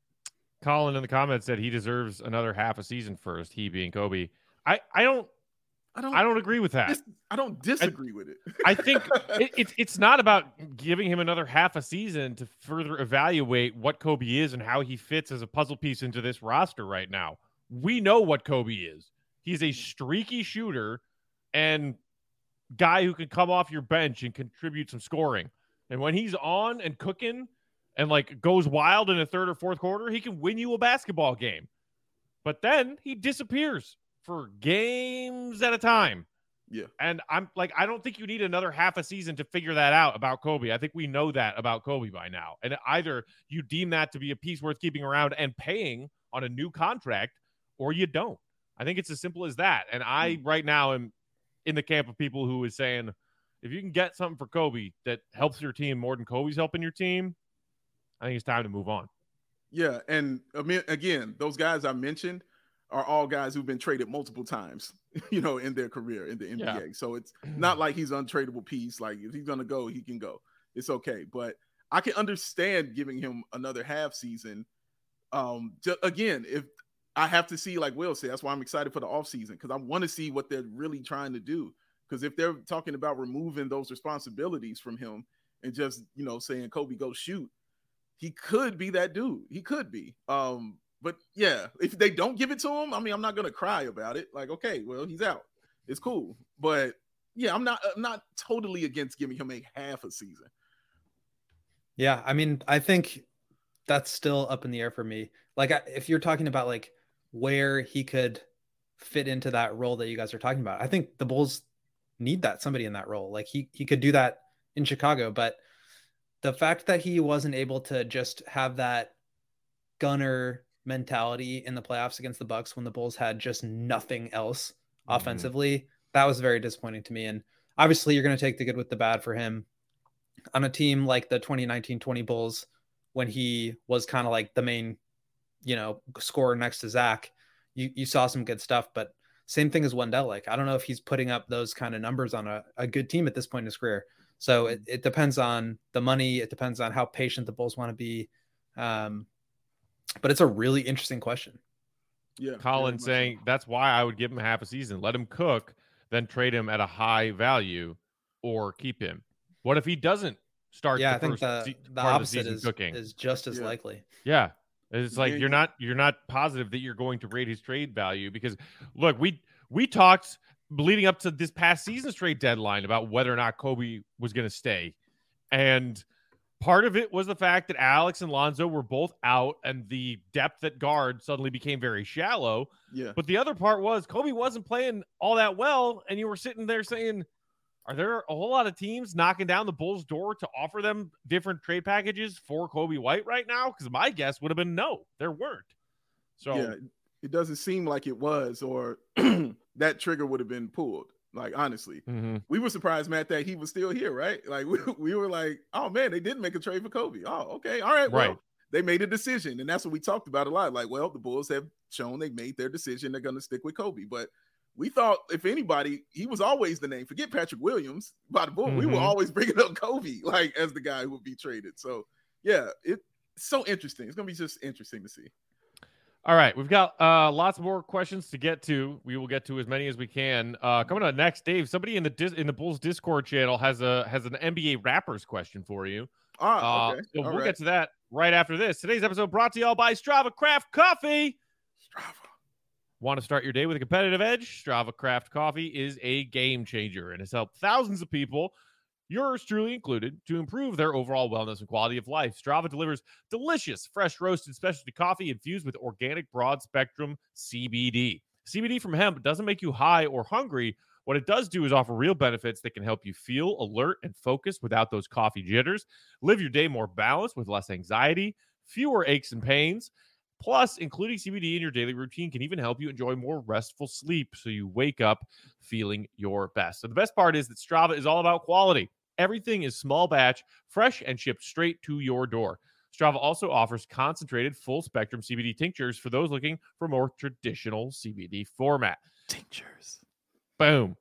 Colin in the comments said he deserves another half a season first, he being Kobe. I, I don't I don't I don't agree with that. dis- I don't disagree with it. I think it, it, it's not about giving him another half a season to further evaluate what Kobe is and how he fits as a puzzle piece into this roster right now. We know what Kobe is. He's a streaky shooter and guy who can come off your bench and contribute some scoring. And when he's on and cooking and like goes wild in a third or fourth quarter, he can win you a basketball game. But then he disappears for games at a time. Yeah. And I'm like, I don't think you need another half a season to figure that out about Kobe. I think we know that about Kobe by now. And either you deem that to be a piece worth keeping around and paying on a new contract, or you don't. I think it's as simple as that. And I right now am in the camp of people who is saying, if you can get something for Kobe that helps your team more than Kobe's helping your team, I think it's time to move on. Yeah. And I mean, again, those guys I mentioned are all guys who've been traded multiple times, you know, in their career in the N B A. Yeah. So it's not like he's an untradeable piece. Like if he's going to go, he can go. It's okay. But I can understand giving him another half season. Um, just, again, if I have to see, like Will said, that's why I'm excited for the offseason, because I want to see what they're really trying to do. Because if they're talking about removing those responsibilities from him and just, you know, saying, Kobe, go shoot, he could be that dude. He could be. Um, but yeah, if they don't give it to him, I mean, I'm not going to cry about it. Like, okay, well, he's out. It's cool. But yeah, I'm not, I'm not totally against giving him a half a season. Yeah. I mean, I think that's still up in the air for me. Like if you're talking about like where he could fit into that role that you guys are talking about, I think the Bulls need that, somebody in that role. Like he, he could do that in Chicago, but the fact that he wasn't able to just have that gunner mentality in the playoffs against the Bucks when the Bulls had just nothing else mm-hmm. offensively, that was very disappointing to me. And obviously you're going to take the good with the bad for him on a team like the twenty nineteen twenty Bulls, when he was kind of like the main, you know, scorer next to Zach. You, you saw some good stuff, but same thing as Wendell. Like, I don't know if he's putting up those kind of numbers on a, a good team at this point in his career. So it, it depends on the money. It depends on how patient the Bulls want to be. Um, but it's a really interesting question. Yeah. Colin saying so. That's why I would give him half a season. Let him cook, then trade him at a high value or keep him. What if he doesn't start yeah, the I think first the, se- the part opposite of the season is, cooking? is just as yeah. likely. Yeah. It's like yeah, you're yeah. not you're not positive that you're going to rate his trade value because look, we we talked leading up to this past season's trade deadline about whether or not Kobe was going to stay. And part of it was the fact that Alex and Lonzo were both out and the depth at guard suddenly became very shallow. Yeah. But the other part was Kobe wasn't playing all that well. And you were sitting there saying, are there a whole lot of teams knocking down the Bulls' door to offer them different trade packages for Kobe White right now? Because my guess would have been no, there weren't. So yeah, it doesn't seem like it was, or that trigger would have been pulled. Like, honestly, mm-hmm. we were surprised, Matt, that he was still here, right? Like, we, we were like, oh, man, they didn't make a trade for Kobe. Oh, okay. All right. Well, right. They made a decision. And that's what we talked about a lot. Like, well, the Bulls have shown they made their decision. They're going to stick with Kobe. But we thought, if anybody, he was always the name. Forget Patrick Williams by the Bulls. Mm-hmm. We were always bringing up Kobe, like, as the guy who would be traded. So, yeah, it's so interesting. It's going to be just interesting to see. All right, we've got uh, lots more questions to get to. We will get to as many as we can. Uh, coming up next, Dave. Somebody in the dis- in the Bulls Discord channel has a has an N B A Rappers question for you. Ah, uh, okay. So All we'll right. get to that right after this. Today's episode brought to you all by Strava Craft Coffee. Strava. Want to start your day with a competitive edge? Strava Craft Coffee is a game changer and has helped thousands of people, yours truly included, to improve their overall wellness and quality of life. Strava delivers delicious, fresh roasted specialty coffee infused with organic broad-spectrum C B D. C B D from hemp doesn't make you high or hungry. What it does do is offer real benefits that can help you feel alert and focused without those coffee jitters. Live your day more balanced with less anxiety, fewer aches and pains. Plus, including C B D in your daily routine can even help you enjoy more restful sleep so you wake up feeling your best. So the best part is that Strava is all about quality. Everything is small batch, fresh, and shipped straight to your door. Strava also offers concentrated full-spectrum C B D tinctures for those looking for more traditional C B D format. Tinctures. Boom.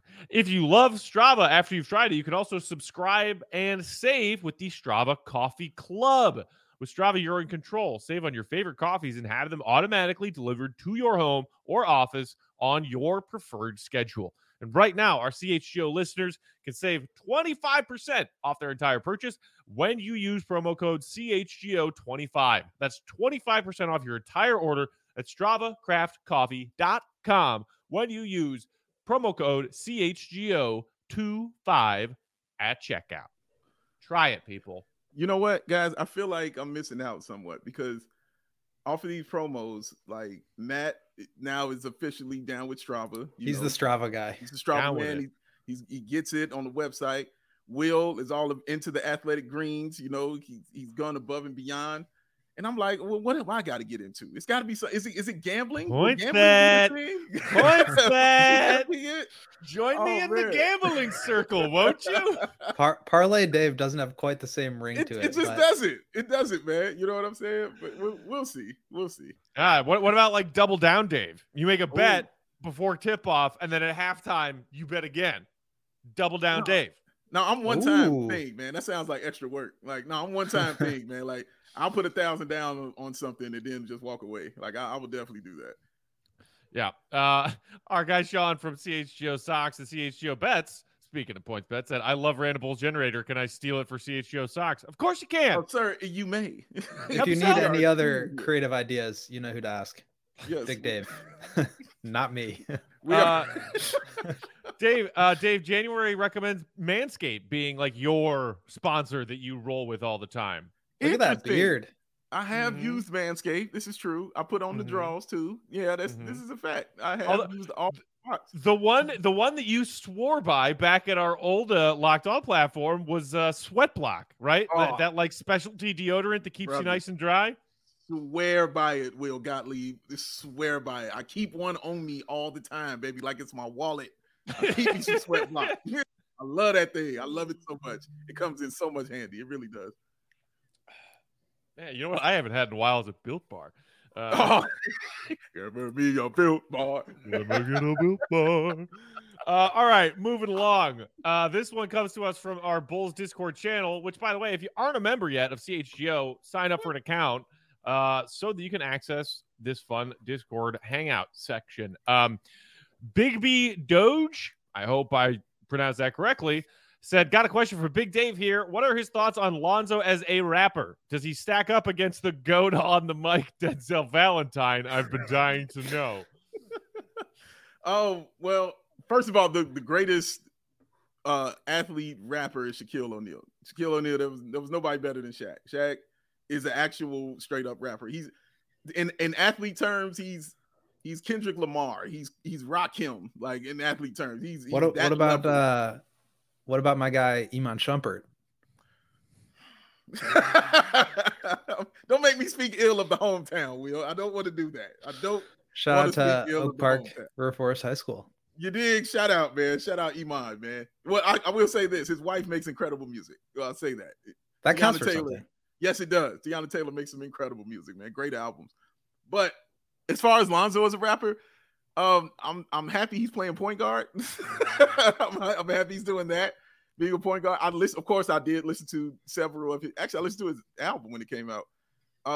If you love Strava after you've tried it, you can also subscribe and save with the Strava Coffee Club. With Strava, you're in control. Save on your favorite coffees and have them automatically delivered to your home or office on your preferred schedule. And right now, our C H G O listeners can save twenty-five percent off their entire purchase when you use promo code C H G O twenty-five. That's twenty-five percent off your entire order at strava craft coffee dot com when you use promo code C H G O twenty-five at checkout. Try it, people. You know what, guys? I feel like I'm missing out somewhat because off of these promos, like Matt now is officially down with Strava. You He's know, the Strava guy. He's the Strava Down with man. it. He, he's, he gets it on the website. Will is all into the athletic greens. You know, he, he's gone above and beyond. And I'm like, well, what have I got to get into? It's got to be so. Is it is it gambling? Will Points gambling bet. be a thing? Points Would that bet. be it? Join me Oh, in man. the gambling circle, won't you? Par- Parlay Dave doesn't have quite the same ring It, to it it. just but doesn't. It doesn't, man. You know what I'm saying? But we'll, we'll see. We'll see. Ah, what, what about like double down, Dave? You make a bet Ooh. before tip off, and then at halftime, you bet again. Double down, No. Dave. No, I'm one time Ooh. thing, man. That sounds like extra work. Like, no, I'm one time thing, man. Like, I'll put a thousand down on, on something and then just walk away. Like, I, I would definitely do that. Yeah. Uh, our guy Sean from C H G O Socks and C H G O Bets, speaking of points bets, said, I love Random Bulls Generator. Can I steal it for C H G O Socks? Of course you can. Oh, sir, you may. if you need Episode. any other creative ideas, you know who to ask. Yes. Big Dave. Not me. We Uh, are. Dave, uh, Dave, January recommends Manscaped being like your sponsor that you roll with all the time. Look at that Interesting. beard. I have Mhm. used Manscaped. This is true. I put on the Mhm. draws too. Yeah, that's Mhm. this is a fact. I have Although- used all spots. The one, the one that you swore by back at our old uh, Locked On platform was uh, Sweat Block, right? That, Oh. that like specialty deodorant that keeps Brother. you nice and dry. Swear by it, Will Gottlieb. Swear by it. I keep one on me all the time, baby, like it's my wallet. I keep me some Sweat Block. I love that thing. I love it so much. It comes in so much handy. It really does. Man, you know what? I haven't had in a while is a Built Bar. Uh, Oh, give me your Built Bar. Let me get a Built Bar. Uh, all right, moving along. Uh, this one comes to us from our Bulls Discord channel, which, by the way, if you aren't a member yet of C H G O, sign up for an account uh, so that you can access this fun Discord hangout section. Um, Big B Doge, I hope I pronounced that correctly, said, got a question for Big Dave here. What are his thoughts on Lonzo as a rapper? Does he stack up against the goat on the mic, Denzel Valentine? I've been dying to know. Oh, well, first of all, the, the greatest uh, athlete rapper is Shaquille O'Neal. Shaquille O'Neal, there was, there was nobody better than Shaq. Shaq is an actual straight up rapper. He's in, in athlete terms, he's he's Kendrick Lamar. He's he's Rakim, like in athlete terms. He's, he's What, what that about level. uh what about my guy Iman Shumpert? Don't make me speak ill of the hometown, Will. I don't want to do that. I don't. Shout wanna out to speak ill of Oak the Park hometown. River Forest High School. You dig? Shout out, man. Shout out Iman, man. Well, I, I will say this: his wife makes incredible music. Well, I'll say that. That Tiana counts for Taylor. something. Yes, it does. Tiana Taylor makes some incredible music, man. Great albums. But as far as Lonzo as a rapper, um, I'm I'm happy he's playing point guard. I'm, I'm happy he's doing that, being a point guard. I listen, of course, I did listen to several of his. Actually, I listened to his album when it came out. Uh,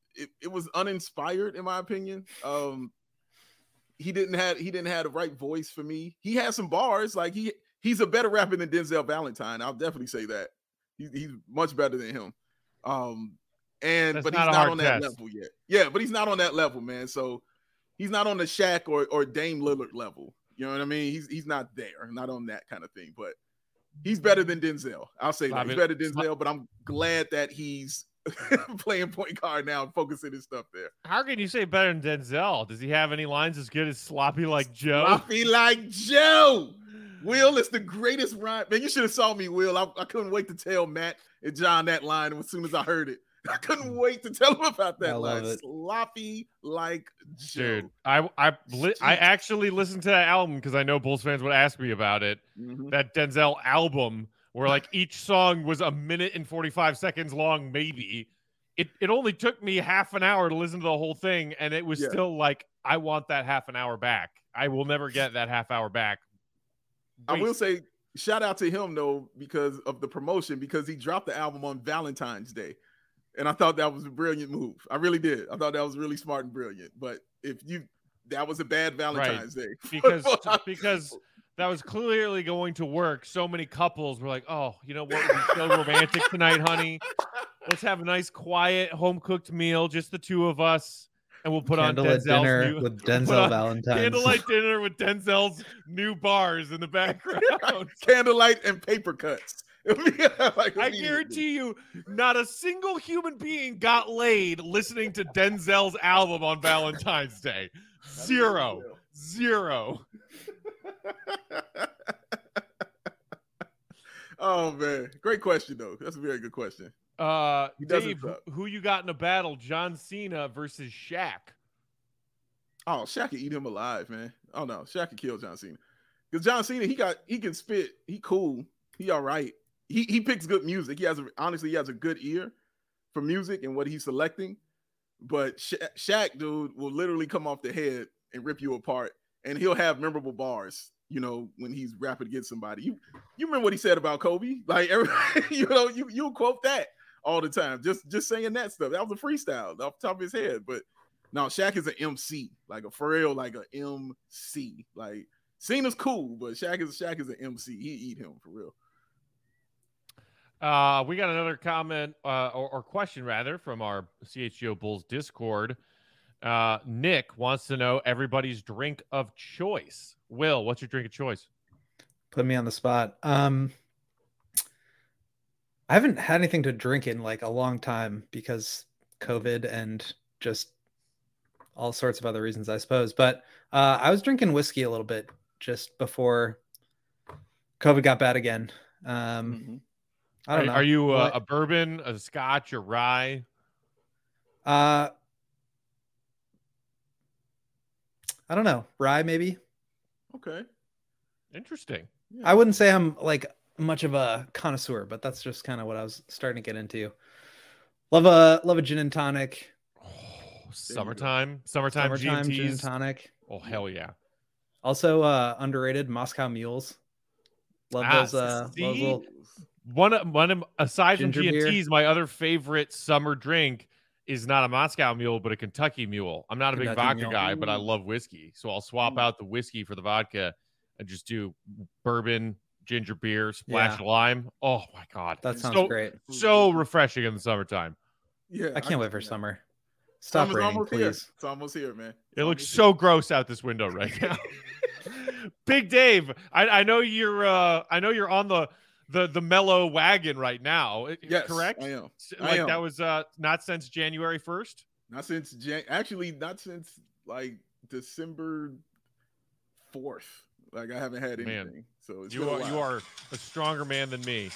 it, it was uninspired in my opinion. Um, he didn't have he didn't have the right voice for me. He had some bars, like he he's a better rapper than Denzel Valentine. I'll definitely say that. He, he's much better than him. Um, and That's but not he's a not hard on that test. level yet. Yeah, but he's not on that level, man. So he's not on the Shaq or or Dame Lillard level. You know what I mean? He's he's not there, not on that kind of thing. But he's better than Denzel. I'll say that. He's better than Denzel, but I'm glad that he's playing point guard now and focusing his stuff there. How can you say better than Denzel? Does he have any lines as good as Sloppy Like Joe? Sloppy Like Joe. Will is the greatest rhyme. Man, you should have saw me, Will. I, I couldn't wait to tell Matt and John that line as soon as I heard it. I couldn't wait to tell him about that I love line. it. Sloppy Like Joe. Dude, I I li- I actually listened to that album because I know Bulls fans would ask me about it. Mhm. That Denzel album where like each song was a minute and forty-five seconds long, maybe. It it only took me half an hour to listen to the whole thing, and it was Yeah. still like, I want that half an hour back. I will never get that half hour back. I will Wait, say, shout out to him though, because of the promotion, because he dropped the album on Valentine's Day. And I thought that was a brilliant move. I really did. I thought that was really smart and brilliant. But if you that was a bad Valentine's Day. because because that was clearly going to work. So many couples were like, oh, you know what? We're so romantic tonight, honey. Let's have a nice, quiet, home cooked meal, just the two of us, and we'll put Candlelit on Denzel's dinner new, with put on Denzel Valentine. candlelight dinner with Denzel's new bars in the background. Candlelight and paper cuts. Like, I guarantee you, not a single human being got laid listening to Denzel's album on Valentine's Day. Zero. Zero. Oh man, great question though. That's a very good question. Uh, He does Dave, it up. who you got in a battle? John Cena versus Shaq. Oh, Shaq could eat him alive, man. Oh no, Shaq could kill John Cena. Because John Cena, he got he can spit. He cool. He all right. He he picks good music. He has a, honestly he has a good ear for music and what he's selecting. But Sha- Shaq, dude, will literally come off the head and rip you apart, and he'll have memorable bars. You know, when he's rapping against somebody. You you remember what he said about Kobe? Like everybody, you know, you you quote that all the time. Just just saying that stuff. That was a freestyle off the top of his head. But no, Shaq is an M C, like a for real, like a M C. Like Cena's cool, but Shaq is Shaq is an M C. He eat him for real. Uh, we got another comment uh, or, or question rather from our C H G O Bulls Discord. Uh, Nick wants to know everybody's drink of choice. Will, what's your drink of choice? Put me on the spot. Um, I haven't had anything to drink in like a long time because COVID and just all sorts of other reasons, I suppose. But uh, I was drinking whiskey a little bit just before COVID got bad again. Um, Mm-hmm. I don't are, know. Are you uh, What- a bourbon, a scotch, a rye? Uh, I don't know. Rye, maybe. Okay. Interesting. Yeah. I wouldn't say I'm like much of a connoisseur, but that's just kind of what I was starting to get into. Love a love a gin and tonic. Oh, summertime, summertime, Summertime G gin and and T's. tonic. Oh hell yeah! Also, uh, underrated Moscow mules. Love Ah, those. Uh, see? those little, One, of- one of, aside from Ginger G and beer. T's, my other favorite summer drink is not a Moscow Mule, but a Kentucky Mule. I'm not a big Kentucky vodka Mule. guy, but I Ooh. love whiskey, so I'll swap Ooh. out the whiskey for the vodka and just do bourbon, ginger beer, splash Yeah. of lime. Oh my god, that sounds so, great. So refreshing in the summertime. Yeah, I can't wait for summer. Stop Summer's raining, almost please. here. It's almost here, man. It looks so gross out this window right now. Big Dave, I, I know you're uh, I know you're on the the the mellow wagon right now. I- Yes, correct? I am. I Like am. that was uh, not since January first. Not since Jan- actually not since like December fourth. Like I haven't had anything. Man, So it's You been a are you while. are a stronger man than me.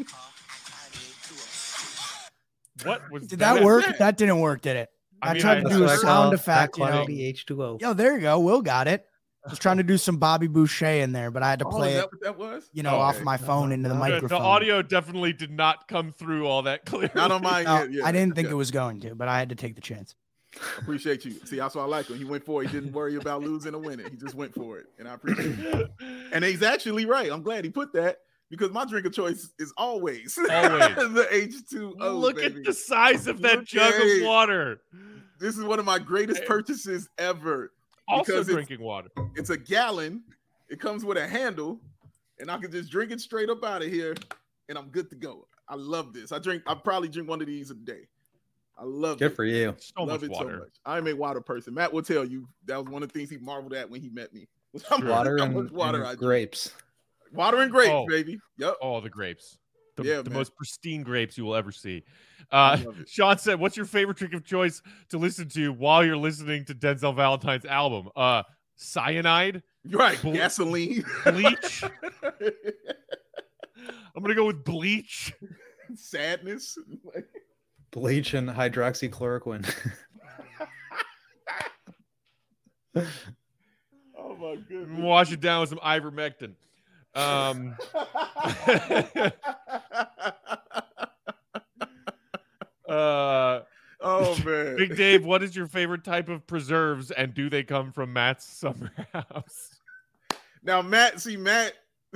What was Did that work? it. That didn't work, did it? I I, mean, tried I- to That's do a what I sound call effect, you know. quality H two O. Yo, there you go. Will got it. I was trying to do some Bobby Boucher in there, but I had to Oh, play is it, that what that was? you know, Oh, off okay. my phone into the Good. Good. microphone. The audio definitely did not come through all that clearly. Not on mine No, yet. Yeah, I didn't think yeah. it was going to, but I had to take the chance. Appreciate you. See, that's why I like him. He went for it. He didn't worry about losing or winning. He just went for it, and I appreciate it. And he's actually right. I'm glad he put that because my drink of choice is always, Always. the H two O. Look baby. at the size of that Look jug at of it. water. This is one of my greatest purchases ever. Also because it's- drinking water. It's a gallon. It comes with a handle, and I can just drink it straight up out of here, and I'm good to go. I love this. I drink. I probably drink one of these a day. I love Good it. for you. So love much it water. so much. I'm a water person. Matt will tell you that was one of the things he marveled at when he met me. How much- Water how and, much water and I drink. grapes. Water and grapes, Oh. baby. Yep. Oh, the grapes. The, Yeah, the man. most pristine grapes you will ever see. I Uh, love it. Sean said, what's your favorite drink of choice to listen to while you're listening to Denzel Valentine's album? Uh, cyanide? Right. Ble- Gasoline. Bleach? I'm going to go with bleach. Sadness. Bleach and hydroxychloroquine. Oh my goodness. Wash it down with some ivermectin. Um, uh, Oh man. Big Dave, what is your favorite type of preserves, and do they come from Matt's summer house? Now, Matt, see, Matt,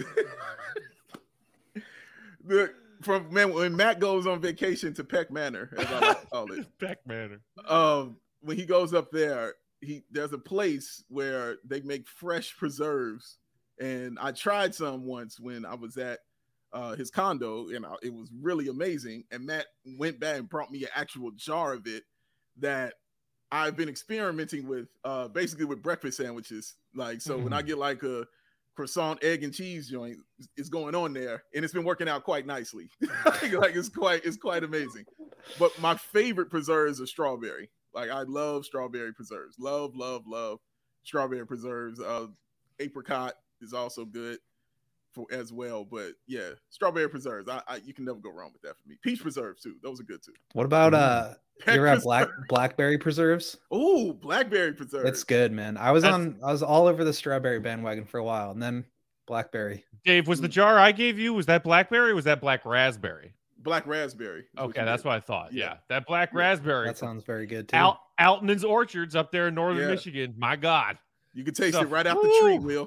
the from man when Matt goes on vacation to Peck Manor, as I like to call it, Peck Manor. um, when he goes up there, he there's a place where they make fresh preserves, and I tried some once when I was at uh, his condo, and I, it was really amazing. And Matt went back and brought me an actual jar of it that I've been experimenting with, uh, basically with breakfast sandwiches. Like, so when I get like a croissant, egg, and cheese joint, it's going on there, and it's been working out quite nicely. Like, it's quite, it's quite amazing. But my favorite preserves are strawberry. Like, I love strawberry preserves. Love, love, love strawberry preserves. Uh, apricot is also good for as well. But yeah, strawberry preserves. I, I you can never go wrong with that for me. Peach preserves too. Those are good too. What about uh Peck you're at black preserve. blackberry preserves? Ooh, blackberry preserves. It's good, man. I was That's- on I was all over the strawberry bandwagon for a while, and then blackberry. Dave, was the jar I gave you, was that blackberry or was that black raspberry? Black raspberry. is what Okay, you that's get. what I thought. Yeah, Yeah. that black Yeah. raspberry. That sounds very good too. Al- Alton's Orchards up there in northern Yeah. Michigan. My God. You can taste So- it right out the tree, Woo! Will.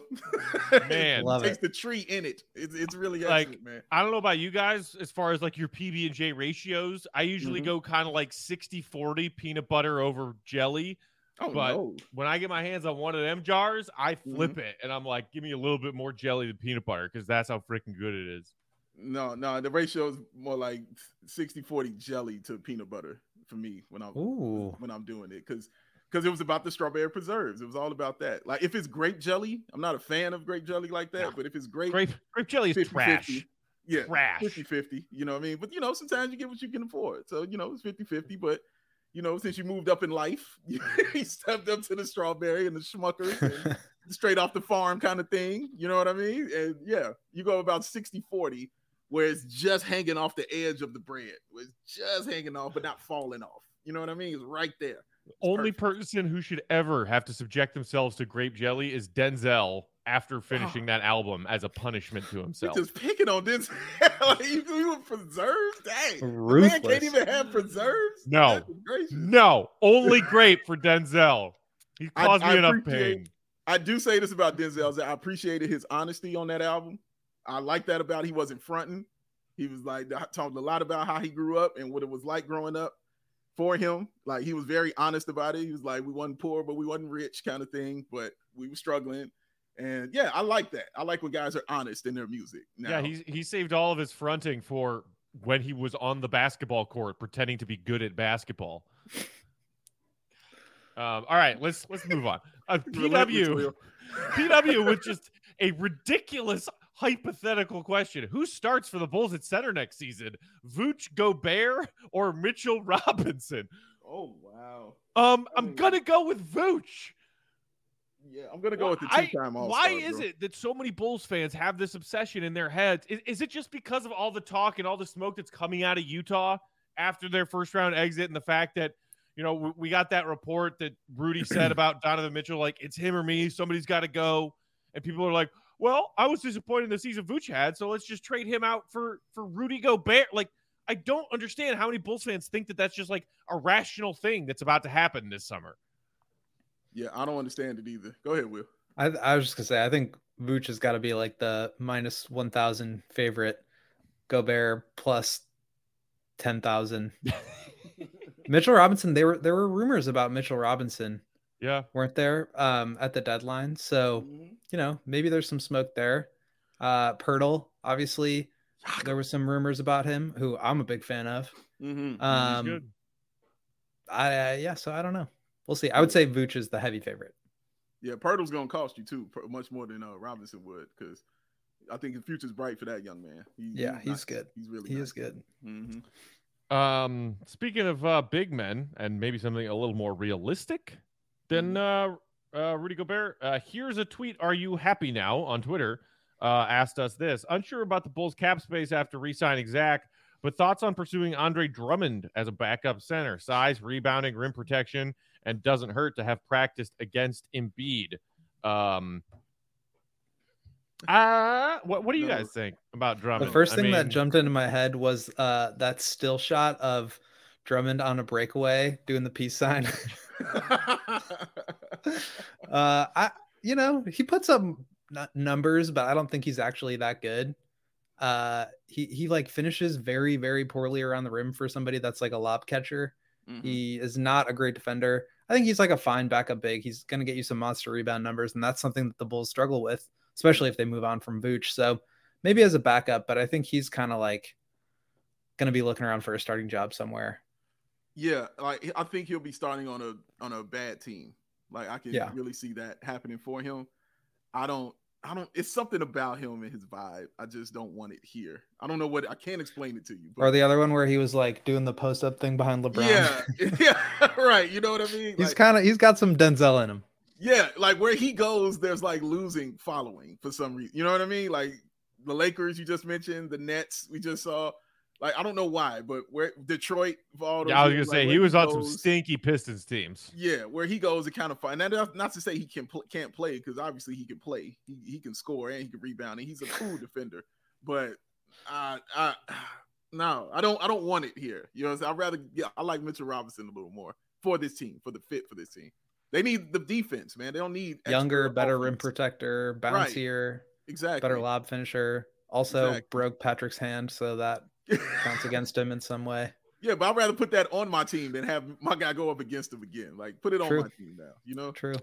Man. Love taste it. the tree in it. It's, it's really Like, excellent, man. I don't know about you guys as far as like your P B and J ratios. I usually Mhm. go kind of like sixty forty peanut butter over jelly. Oh but- no. When I get my hands on one of them jars, I flip it and I'm like, give me a little bit more jelly than peanut butter because that's how freaking good it is. No, no, the ratio is more like sixty forty jelly to peanut butter for me when I'm Ooh. when I'm doing it because because it was about the strawberry preserves. It was all about that. Like if it's grape jelly, I'm not a fan of grape jelly like that, No. but if it's grape, Grape grape jelly is fifty trash. fifty, yeah, Trash. fifty fifty, you know what I mean? But you know, sometimes you get what you can afford. So, you know, it's fifty fifty, but you know, since you moved up in life, you stepped up to the strawberry and the Schmuckers and straight off the farm kind of thing. You know what I mean? And yeah, you go about sixty forty where it's just hanging off the edge of the bread. Where it's just hanging off, but not falling off. You know what I mean? It's right there. It's Only perfect. person who should ever have to subject themselves to grape jelly is Denzel after finishing that album as a punishment to You're himself. just picking on this. Like, you, you with preserves? Dang. The man Ruthless. can't even have preserves? No. Goodness gracious. No, only grape for Denzel. He I- caused I me enough appreciate- pain. I do say this about Denzel. Is that I appreciated his honesty on that album. I like that about he wasn't fronting. He was like talked a lot about how he grew up and what it was like growing up for him. Like he was very honest about it. He was like, we wasn't poor, but we wasn't rich kind of thing, but we were struggling. And yeah, I like that. I like when guys are honest in their music. Now, Yeah, he he saved all of his fronting for when he was on the basketball court pretending to be good at basketball. Um, all right, let's let's move on. Uh, P relentless, W Will. P W with just a ridiculous hypothetical question. Who starts for the Bulls at center next season? Vooch Gobert or Mitchell Robinson? Oh wow. Um, I I'm mean- gonna go with Vooch. Yeah, I'm gonna go with the I- two-time All-Star. Why is bro. it that so many Bulls fans have this obsession in their heads? Is, is it just because of all the talk and all the smoke that's coming out of Utah after their first round exit and the fact that, you know, we, we got that report that Rudy said about Donovan Mitchell, like it's him or me, somebody's got to go. And people are like, well, I was disappointed in the season Vooch had, so let's just trade him out for, for Rudy Gobert. Like, I don't understand how many Bulls fans think that that's just like a rational thing that's about to happen this summer. Yeah, I don't understand it either. Go ahead, Will. I, I was just gonna say, I think Vooch has got to be like the minus one thousand favorite. Gobert plus ten thousand. Mitchell Robinson. They were there were rumors about Mitchell Robinson. Yeah, weren't there um, at the deadline? So mm-hmm. you know, maybe there's some smoke there. Uh, Pirtle, obviously, there was some rumors about him, who I'm a big fan of. Mm-hmm. Um, He's good. I uh, yeah, so I don't know. We'll see. I would say Vooch is the heavy favorite. Yeah, Pirtle's gonna cost you too, much more than uh, Robinson would, because I think the future's bright for that young man. He, yeah, he's, he's nice. good. He's really he nice. is good. Mm-hmm. Um, speaking of uh, big men and maybe something a little more realistic than uh, uh, Rudy Gobert, uh, here's a tweet. Are you happy now on Twitter? Uh, asked us this. Unsure about the Bulls cap space after re-signing Zach, but thoughts on pursuing Andre Drummond as a backup center. Size, rebounding, rim protection, and doesn't hurt to have practiced against Embiid. Um, uh, what, what do you guys think about Drummond? The first I thing mean, that jumped into my head was uh, that still shot of Drummond on a breakaway doing the peace sign. uh, I, you know, he puts up numbers, but I don't think he's actually that good. Uh, he he like finishes very very poorly around the rim for somebody that's like a lob catcher. Mm-hmm. He is not a great defender. I think he's like a fine backup big. He's going to get you some monster rebound numbers, and that's something that the Bulls struggle with, especially if they move on from Vooch. So maybe as a backup, but I think he's kind of like going to be looking around for a starting job somewhere. Yeah, like I think he'll be starting on a on a bad team. Like I can yeah. really see that happening for him. I don't, I don't. It's something about him and his vibe. I just don't want it here. I don't know what. I can't explain it to you. But... Or the other one where he was like doing the post up thing behind LeBron. Yeah, yeah, right. You know what I mean? He's like, kind of he's got some Denzel in him. Yeah, like where he goes, there's like losing following for some reason. You know what I mean? Like the Lakers you just mentioned, the Nets we just saw. Like I don't know why, but where Detroit, for all those yeah, I was years, gonna like, say he was he on goes, some stinky Pistons teams. Yeah, where he goes, it kind of fun. And that's not to say he can pl- can't play, because obviously he can play. He he can score and he can rebound, and he's a cool defender. But I I no, I don't I don't want it here. You know, what I'm saying? I'd rather yeah, I like Mitchell Robinson a little more for this team, for the fit for this team. They need the defense, man. They don't need younger, better offense. Rim protector, bouncier, right. exactly, better lob finisher. Also exactly. broke Patrick's hand, so that counts against him in some way. Yeah, but I'd rather put that on my team than have my guy go up against him again. Like, put it True. on my team now, you know? True.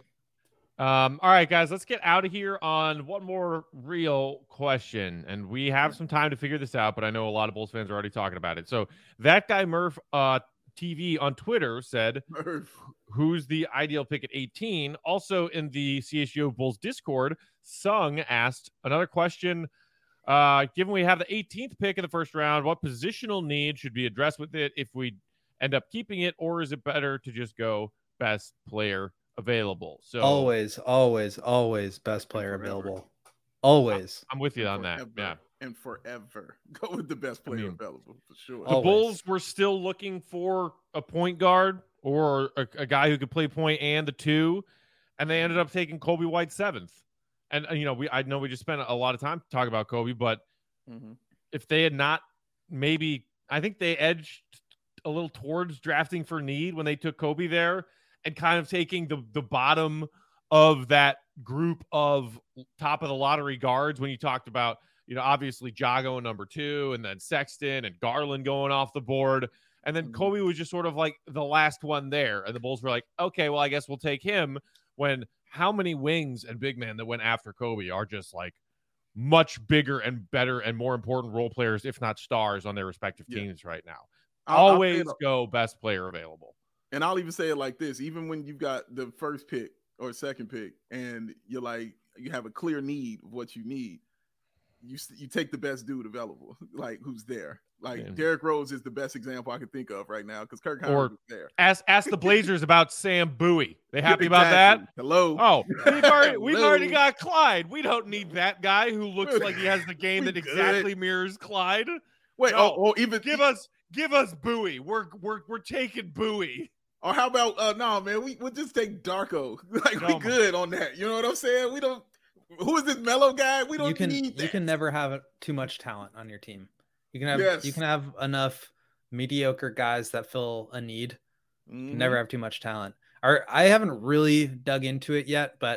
Um, all right, guys, let's get out of here on one more real question. And we have some time to figure this out, but I know a lot of Bulls fans are already talking about it. So that guy, Murph uh, T V on Twitter said, Murph. Who's the ideal pick at eighteen? Also in the C H G O Bulls Discord, Sung asked another question. Uh, given we have the eighteenth pick in the first round, what positional need should be addressed with it if we end up keeping it, or is it better to just go best player available? So always, always, always best player available. Always. I'm with you on forever, that. Yeah. And forever go with the best player I mean, available for sure. The always. Bulls were still looking for a point guard or a, a guy who could play point and the two, and they ended up taking Kobe White seventh. And, you know, we I know we just spent a lot of time talking about Kobe, but mm-hmm. if they had not maybe, I think they edged a little towards drafting for need when they took Kobe there and kind of taking the, the bottom of that group of top of the lottery guards when you talked about, you know, obviously Jago number two and then Sexton and Garland going off the board. And then mm-hmm. Kobe was just sort of like the last one there. And the Bulls were like, okay, well, I guess we'll take him when – how many wings and big men that went after Kobe are just like much bigger and better and more important role players, if not stars, on their respective yeah. teams right now? I'll, Always I'll go best player available. And I'll even say it like this: even when you've got the first pick or second pick, and you're like you have a clear need of what you need, you you take the best dude available, like who's there. Like yeah. Derrick Rose is the best example I can think of right now because Kirk Howard is there. Ask ask the Blazers about Sam Bowie. They happy exactly. about that? Hello. Oh, we've already we've already got Clyde. We don't need that guy who looks like he has the game that exactly mirrors Clyde. Wait, no. oh, oh, even give us give us Bowie. We're we're we're taking Bowie. Or how about uh no man, we we'll just take Darko. Like no, we good on that. You know what I'm saying? We don't. Who is this mellow guy? We don't you can, need that. You can never have too much talent on your team. You can have yes. you can have enough mediocre guys that fill a need. Mm-hmm. You can never have too much talent. Or I haven't really dug into it yet, but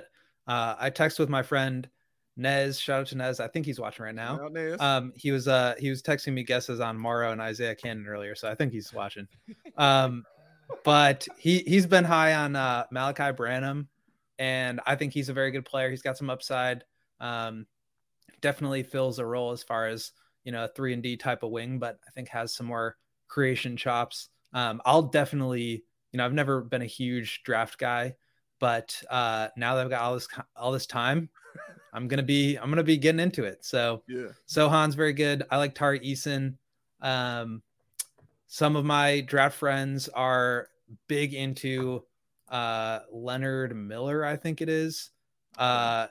Uh, I text with my friend Nez. Shout out to Nez. I think he's watching right now. Shout out, Nez. Um, he was uh he was texting me guesses on Morrow and Isaiah Cannon earlier, so I think he's watching. Um, but he he's been high on uh, Malachi Branham, and I think he's a very good player. He's got some upside. Um, definitely fills a role as far as, you know, a three and D type of wing, but I think has some more creation chops. Um, I'll definitely, you know, I've never been a huge draft guy, but uh, now that I've got all this all this time, I'm gonna be I'm gonna be getting into it. So Yeah. Sohan's very good. I like Tari Eason. Um, some of my draft friends are big into uh, Leonard Miller, I think it is. Uh,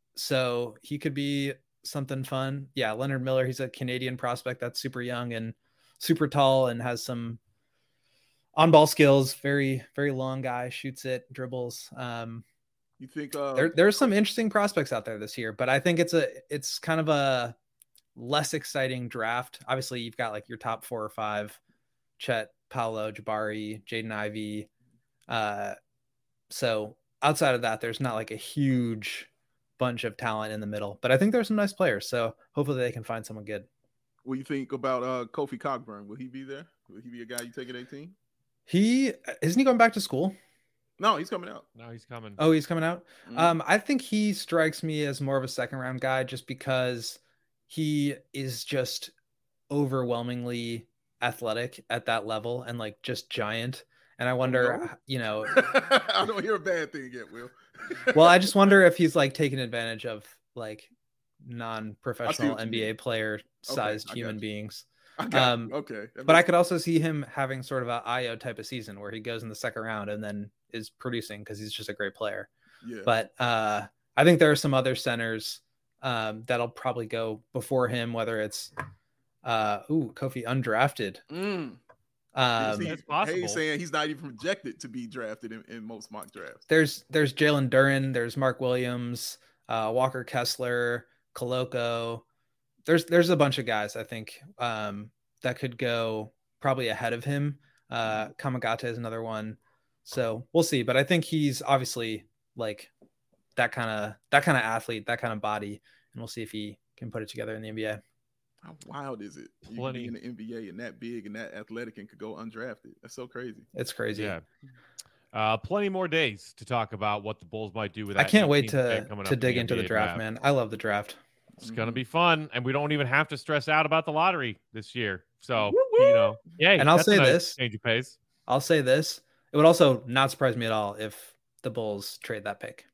so he could be something fun. Yeah, Leonard Miller. He's a Canadian prospect that's super young and super tall and has some on-ball skills. Very, very long guy, shoots it, dribbles. Um, You think uh, there, there's some interesting prospects out there this year, but I think it's a, it's kind of a less exciting draft. Obviously, you've got like your top four or five: Chet, Paolo, Jabari, Jaden Ivey. Uh, so outside of that, there's not like a huge bunch of talent in the middle, but I think there's some nice players. So hopefully they can find someone good. what do you think about uh, Kofi Cockburn? Will he be there? Will he be a guy you take at eighteen? He isn't he going back to school? No, he's coming out. No, he's coming. Oh, he's coming out. Mhm. Um, I think he strikes me as more of a second round guy just because he is just overwhelmingly athletic at that level and like just giant. And I wonder, no? you know, I don't hear a bad thing yet, Will. well, I just wonder if he's like taking advantage of like I see non-professional what you N B A mean. player sized I got human you. beings. I got Um, you. Okay. That But I makes- could also see him having sort of a Io type of season where he goes in the second round and then is producing because he's just a great player. yeah. But uh, I think there are some other centers um, that'll probably go before him, whether it's uh, ooh, Kofi undrafted. Mm. Um, See, It's possible. Hayes saying he's not even projected to be drafted in, in most mock drafts. there's there's Jalen Duren, there's Mark Williams, uh, Walker Kessler, Koloko. There's there's a bunch of guys I think um, that could go probably ahead of him. Uh, Kamagata is another one, so we'll see. But I think he's obviously like that kind of that kind of athlete, that kind of body, and we'll see if he can put it together in the N B A. How wild is it? You Plenty. can be in the N B A and that big and that athletic and could go undrafted. That's so crazy. It's crazy. Yeah. Uh, plenty more days to talk about what the Bulls might do with I that can't wait eighteenth pick to coming to up in dig the into the N B A draft, man. I love the draft. It's gonna Mhm. be fun, and we don't even have to stress out about the lottery this year. So you know, yeah. And I'll say this. change of pace. I'll say this: it would also not surprise me at all if the Bulls trade that pick.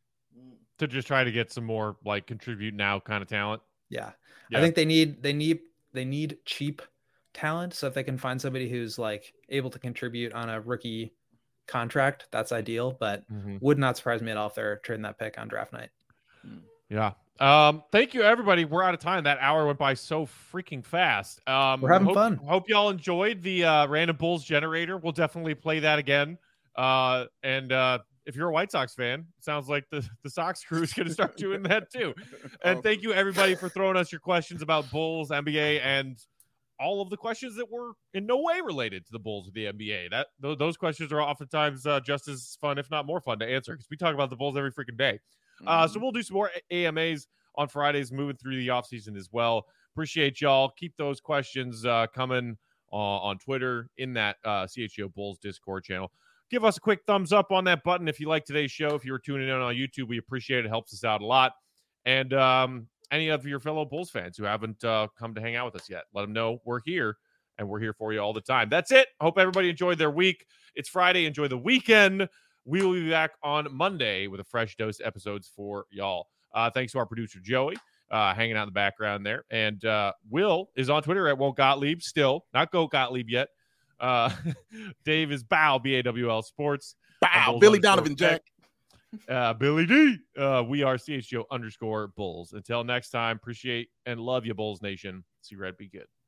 To just try to get some more like contribute now kind of talent. Yeah. Yeah. I think they need they need they need cheap talent. So if they can find somebody who's like able to contribute on a rookie contract, that's ideal. But Mhm. would not surprise me at all if they're trading that pick on draft night. Yeah. Um, thank you everybody. We're out of time. That hour went by so freaking fast. Um, We're having hope, fun. Hope y'all enjoyed the uh, Random Bulls generator. We'll definitely play that again. Uh, and uh, if you're a White Sox fan, it sounds like the, the Sox crew is going to start doing that too. And thank you everybody for throwing us your questions about Bulls, N B A, and all of the questions that were in no way related to the Bulls or the N B A. That th- those questions are oftentimes uh, just as fun, if not more fun, to answer because we talk about the Bulls every freaking day. Uh, so we'll do some more A M As on Fridays, moving through the offseason as well. Appreciate y'all. Keep those questions uh, coming uh, on Twitter in that uh, C H G O Bulls Discord channel. Give us a quick thumbs up on that button if you like today's show. If you were tuning in on YouTube, we appreciate it. It helps us out a lot. And um, any of your fellow Bulls fans who haven't uh, come to hang out with us yet, let them know we're here and we're here for you all the time. That's it. Hope everybody enjoyed their week. It's Friday. Enjoy the weekend. We will be back on Monday with a fresh dose of episodes for y'all. Uh, thanks to our producer, Joey, uh, hanging out in the background there. And uh, Will is on Twitter at Won't Gottlieb, still. Not Go Gottlieb yet. Uh, Dave is Bow, B A W L Sports. Bow, Bulls Billy underscore Donovan, Jack. Uh, Billy D. Uh, we are C H G O underscore Bulls. Until next time, appreciate and love you, Bulls Nation. See Red, be good.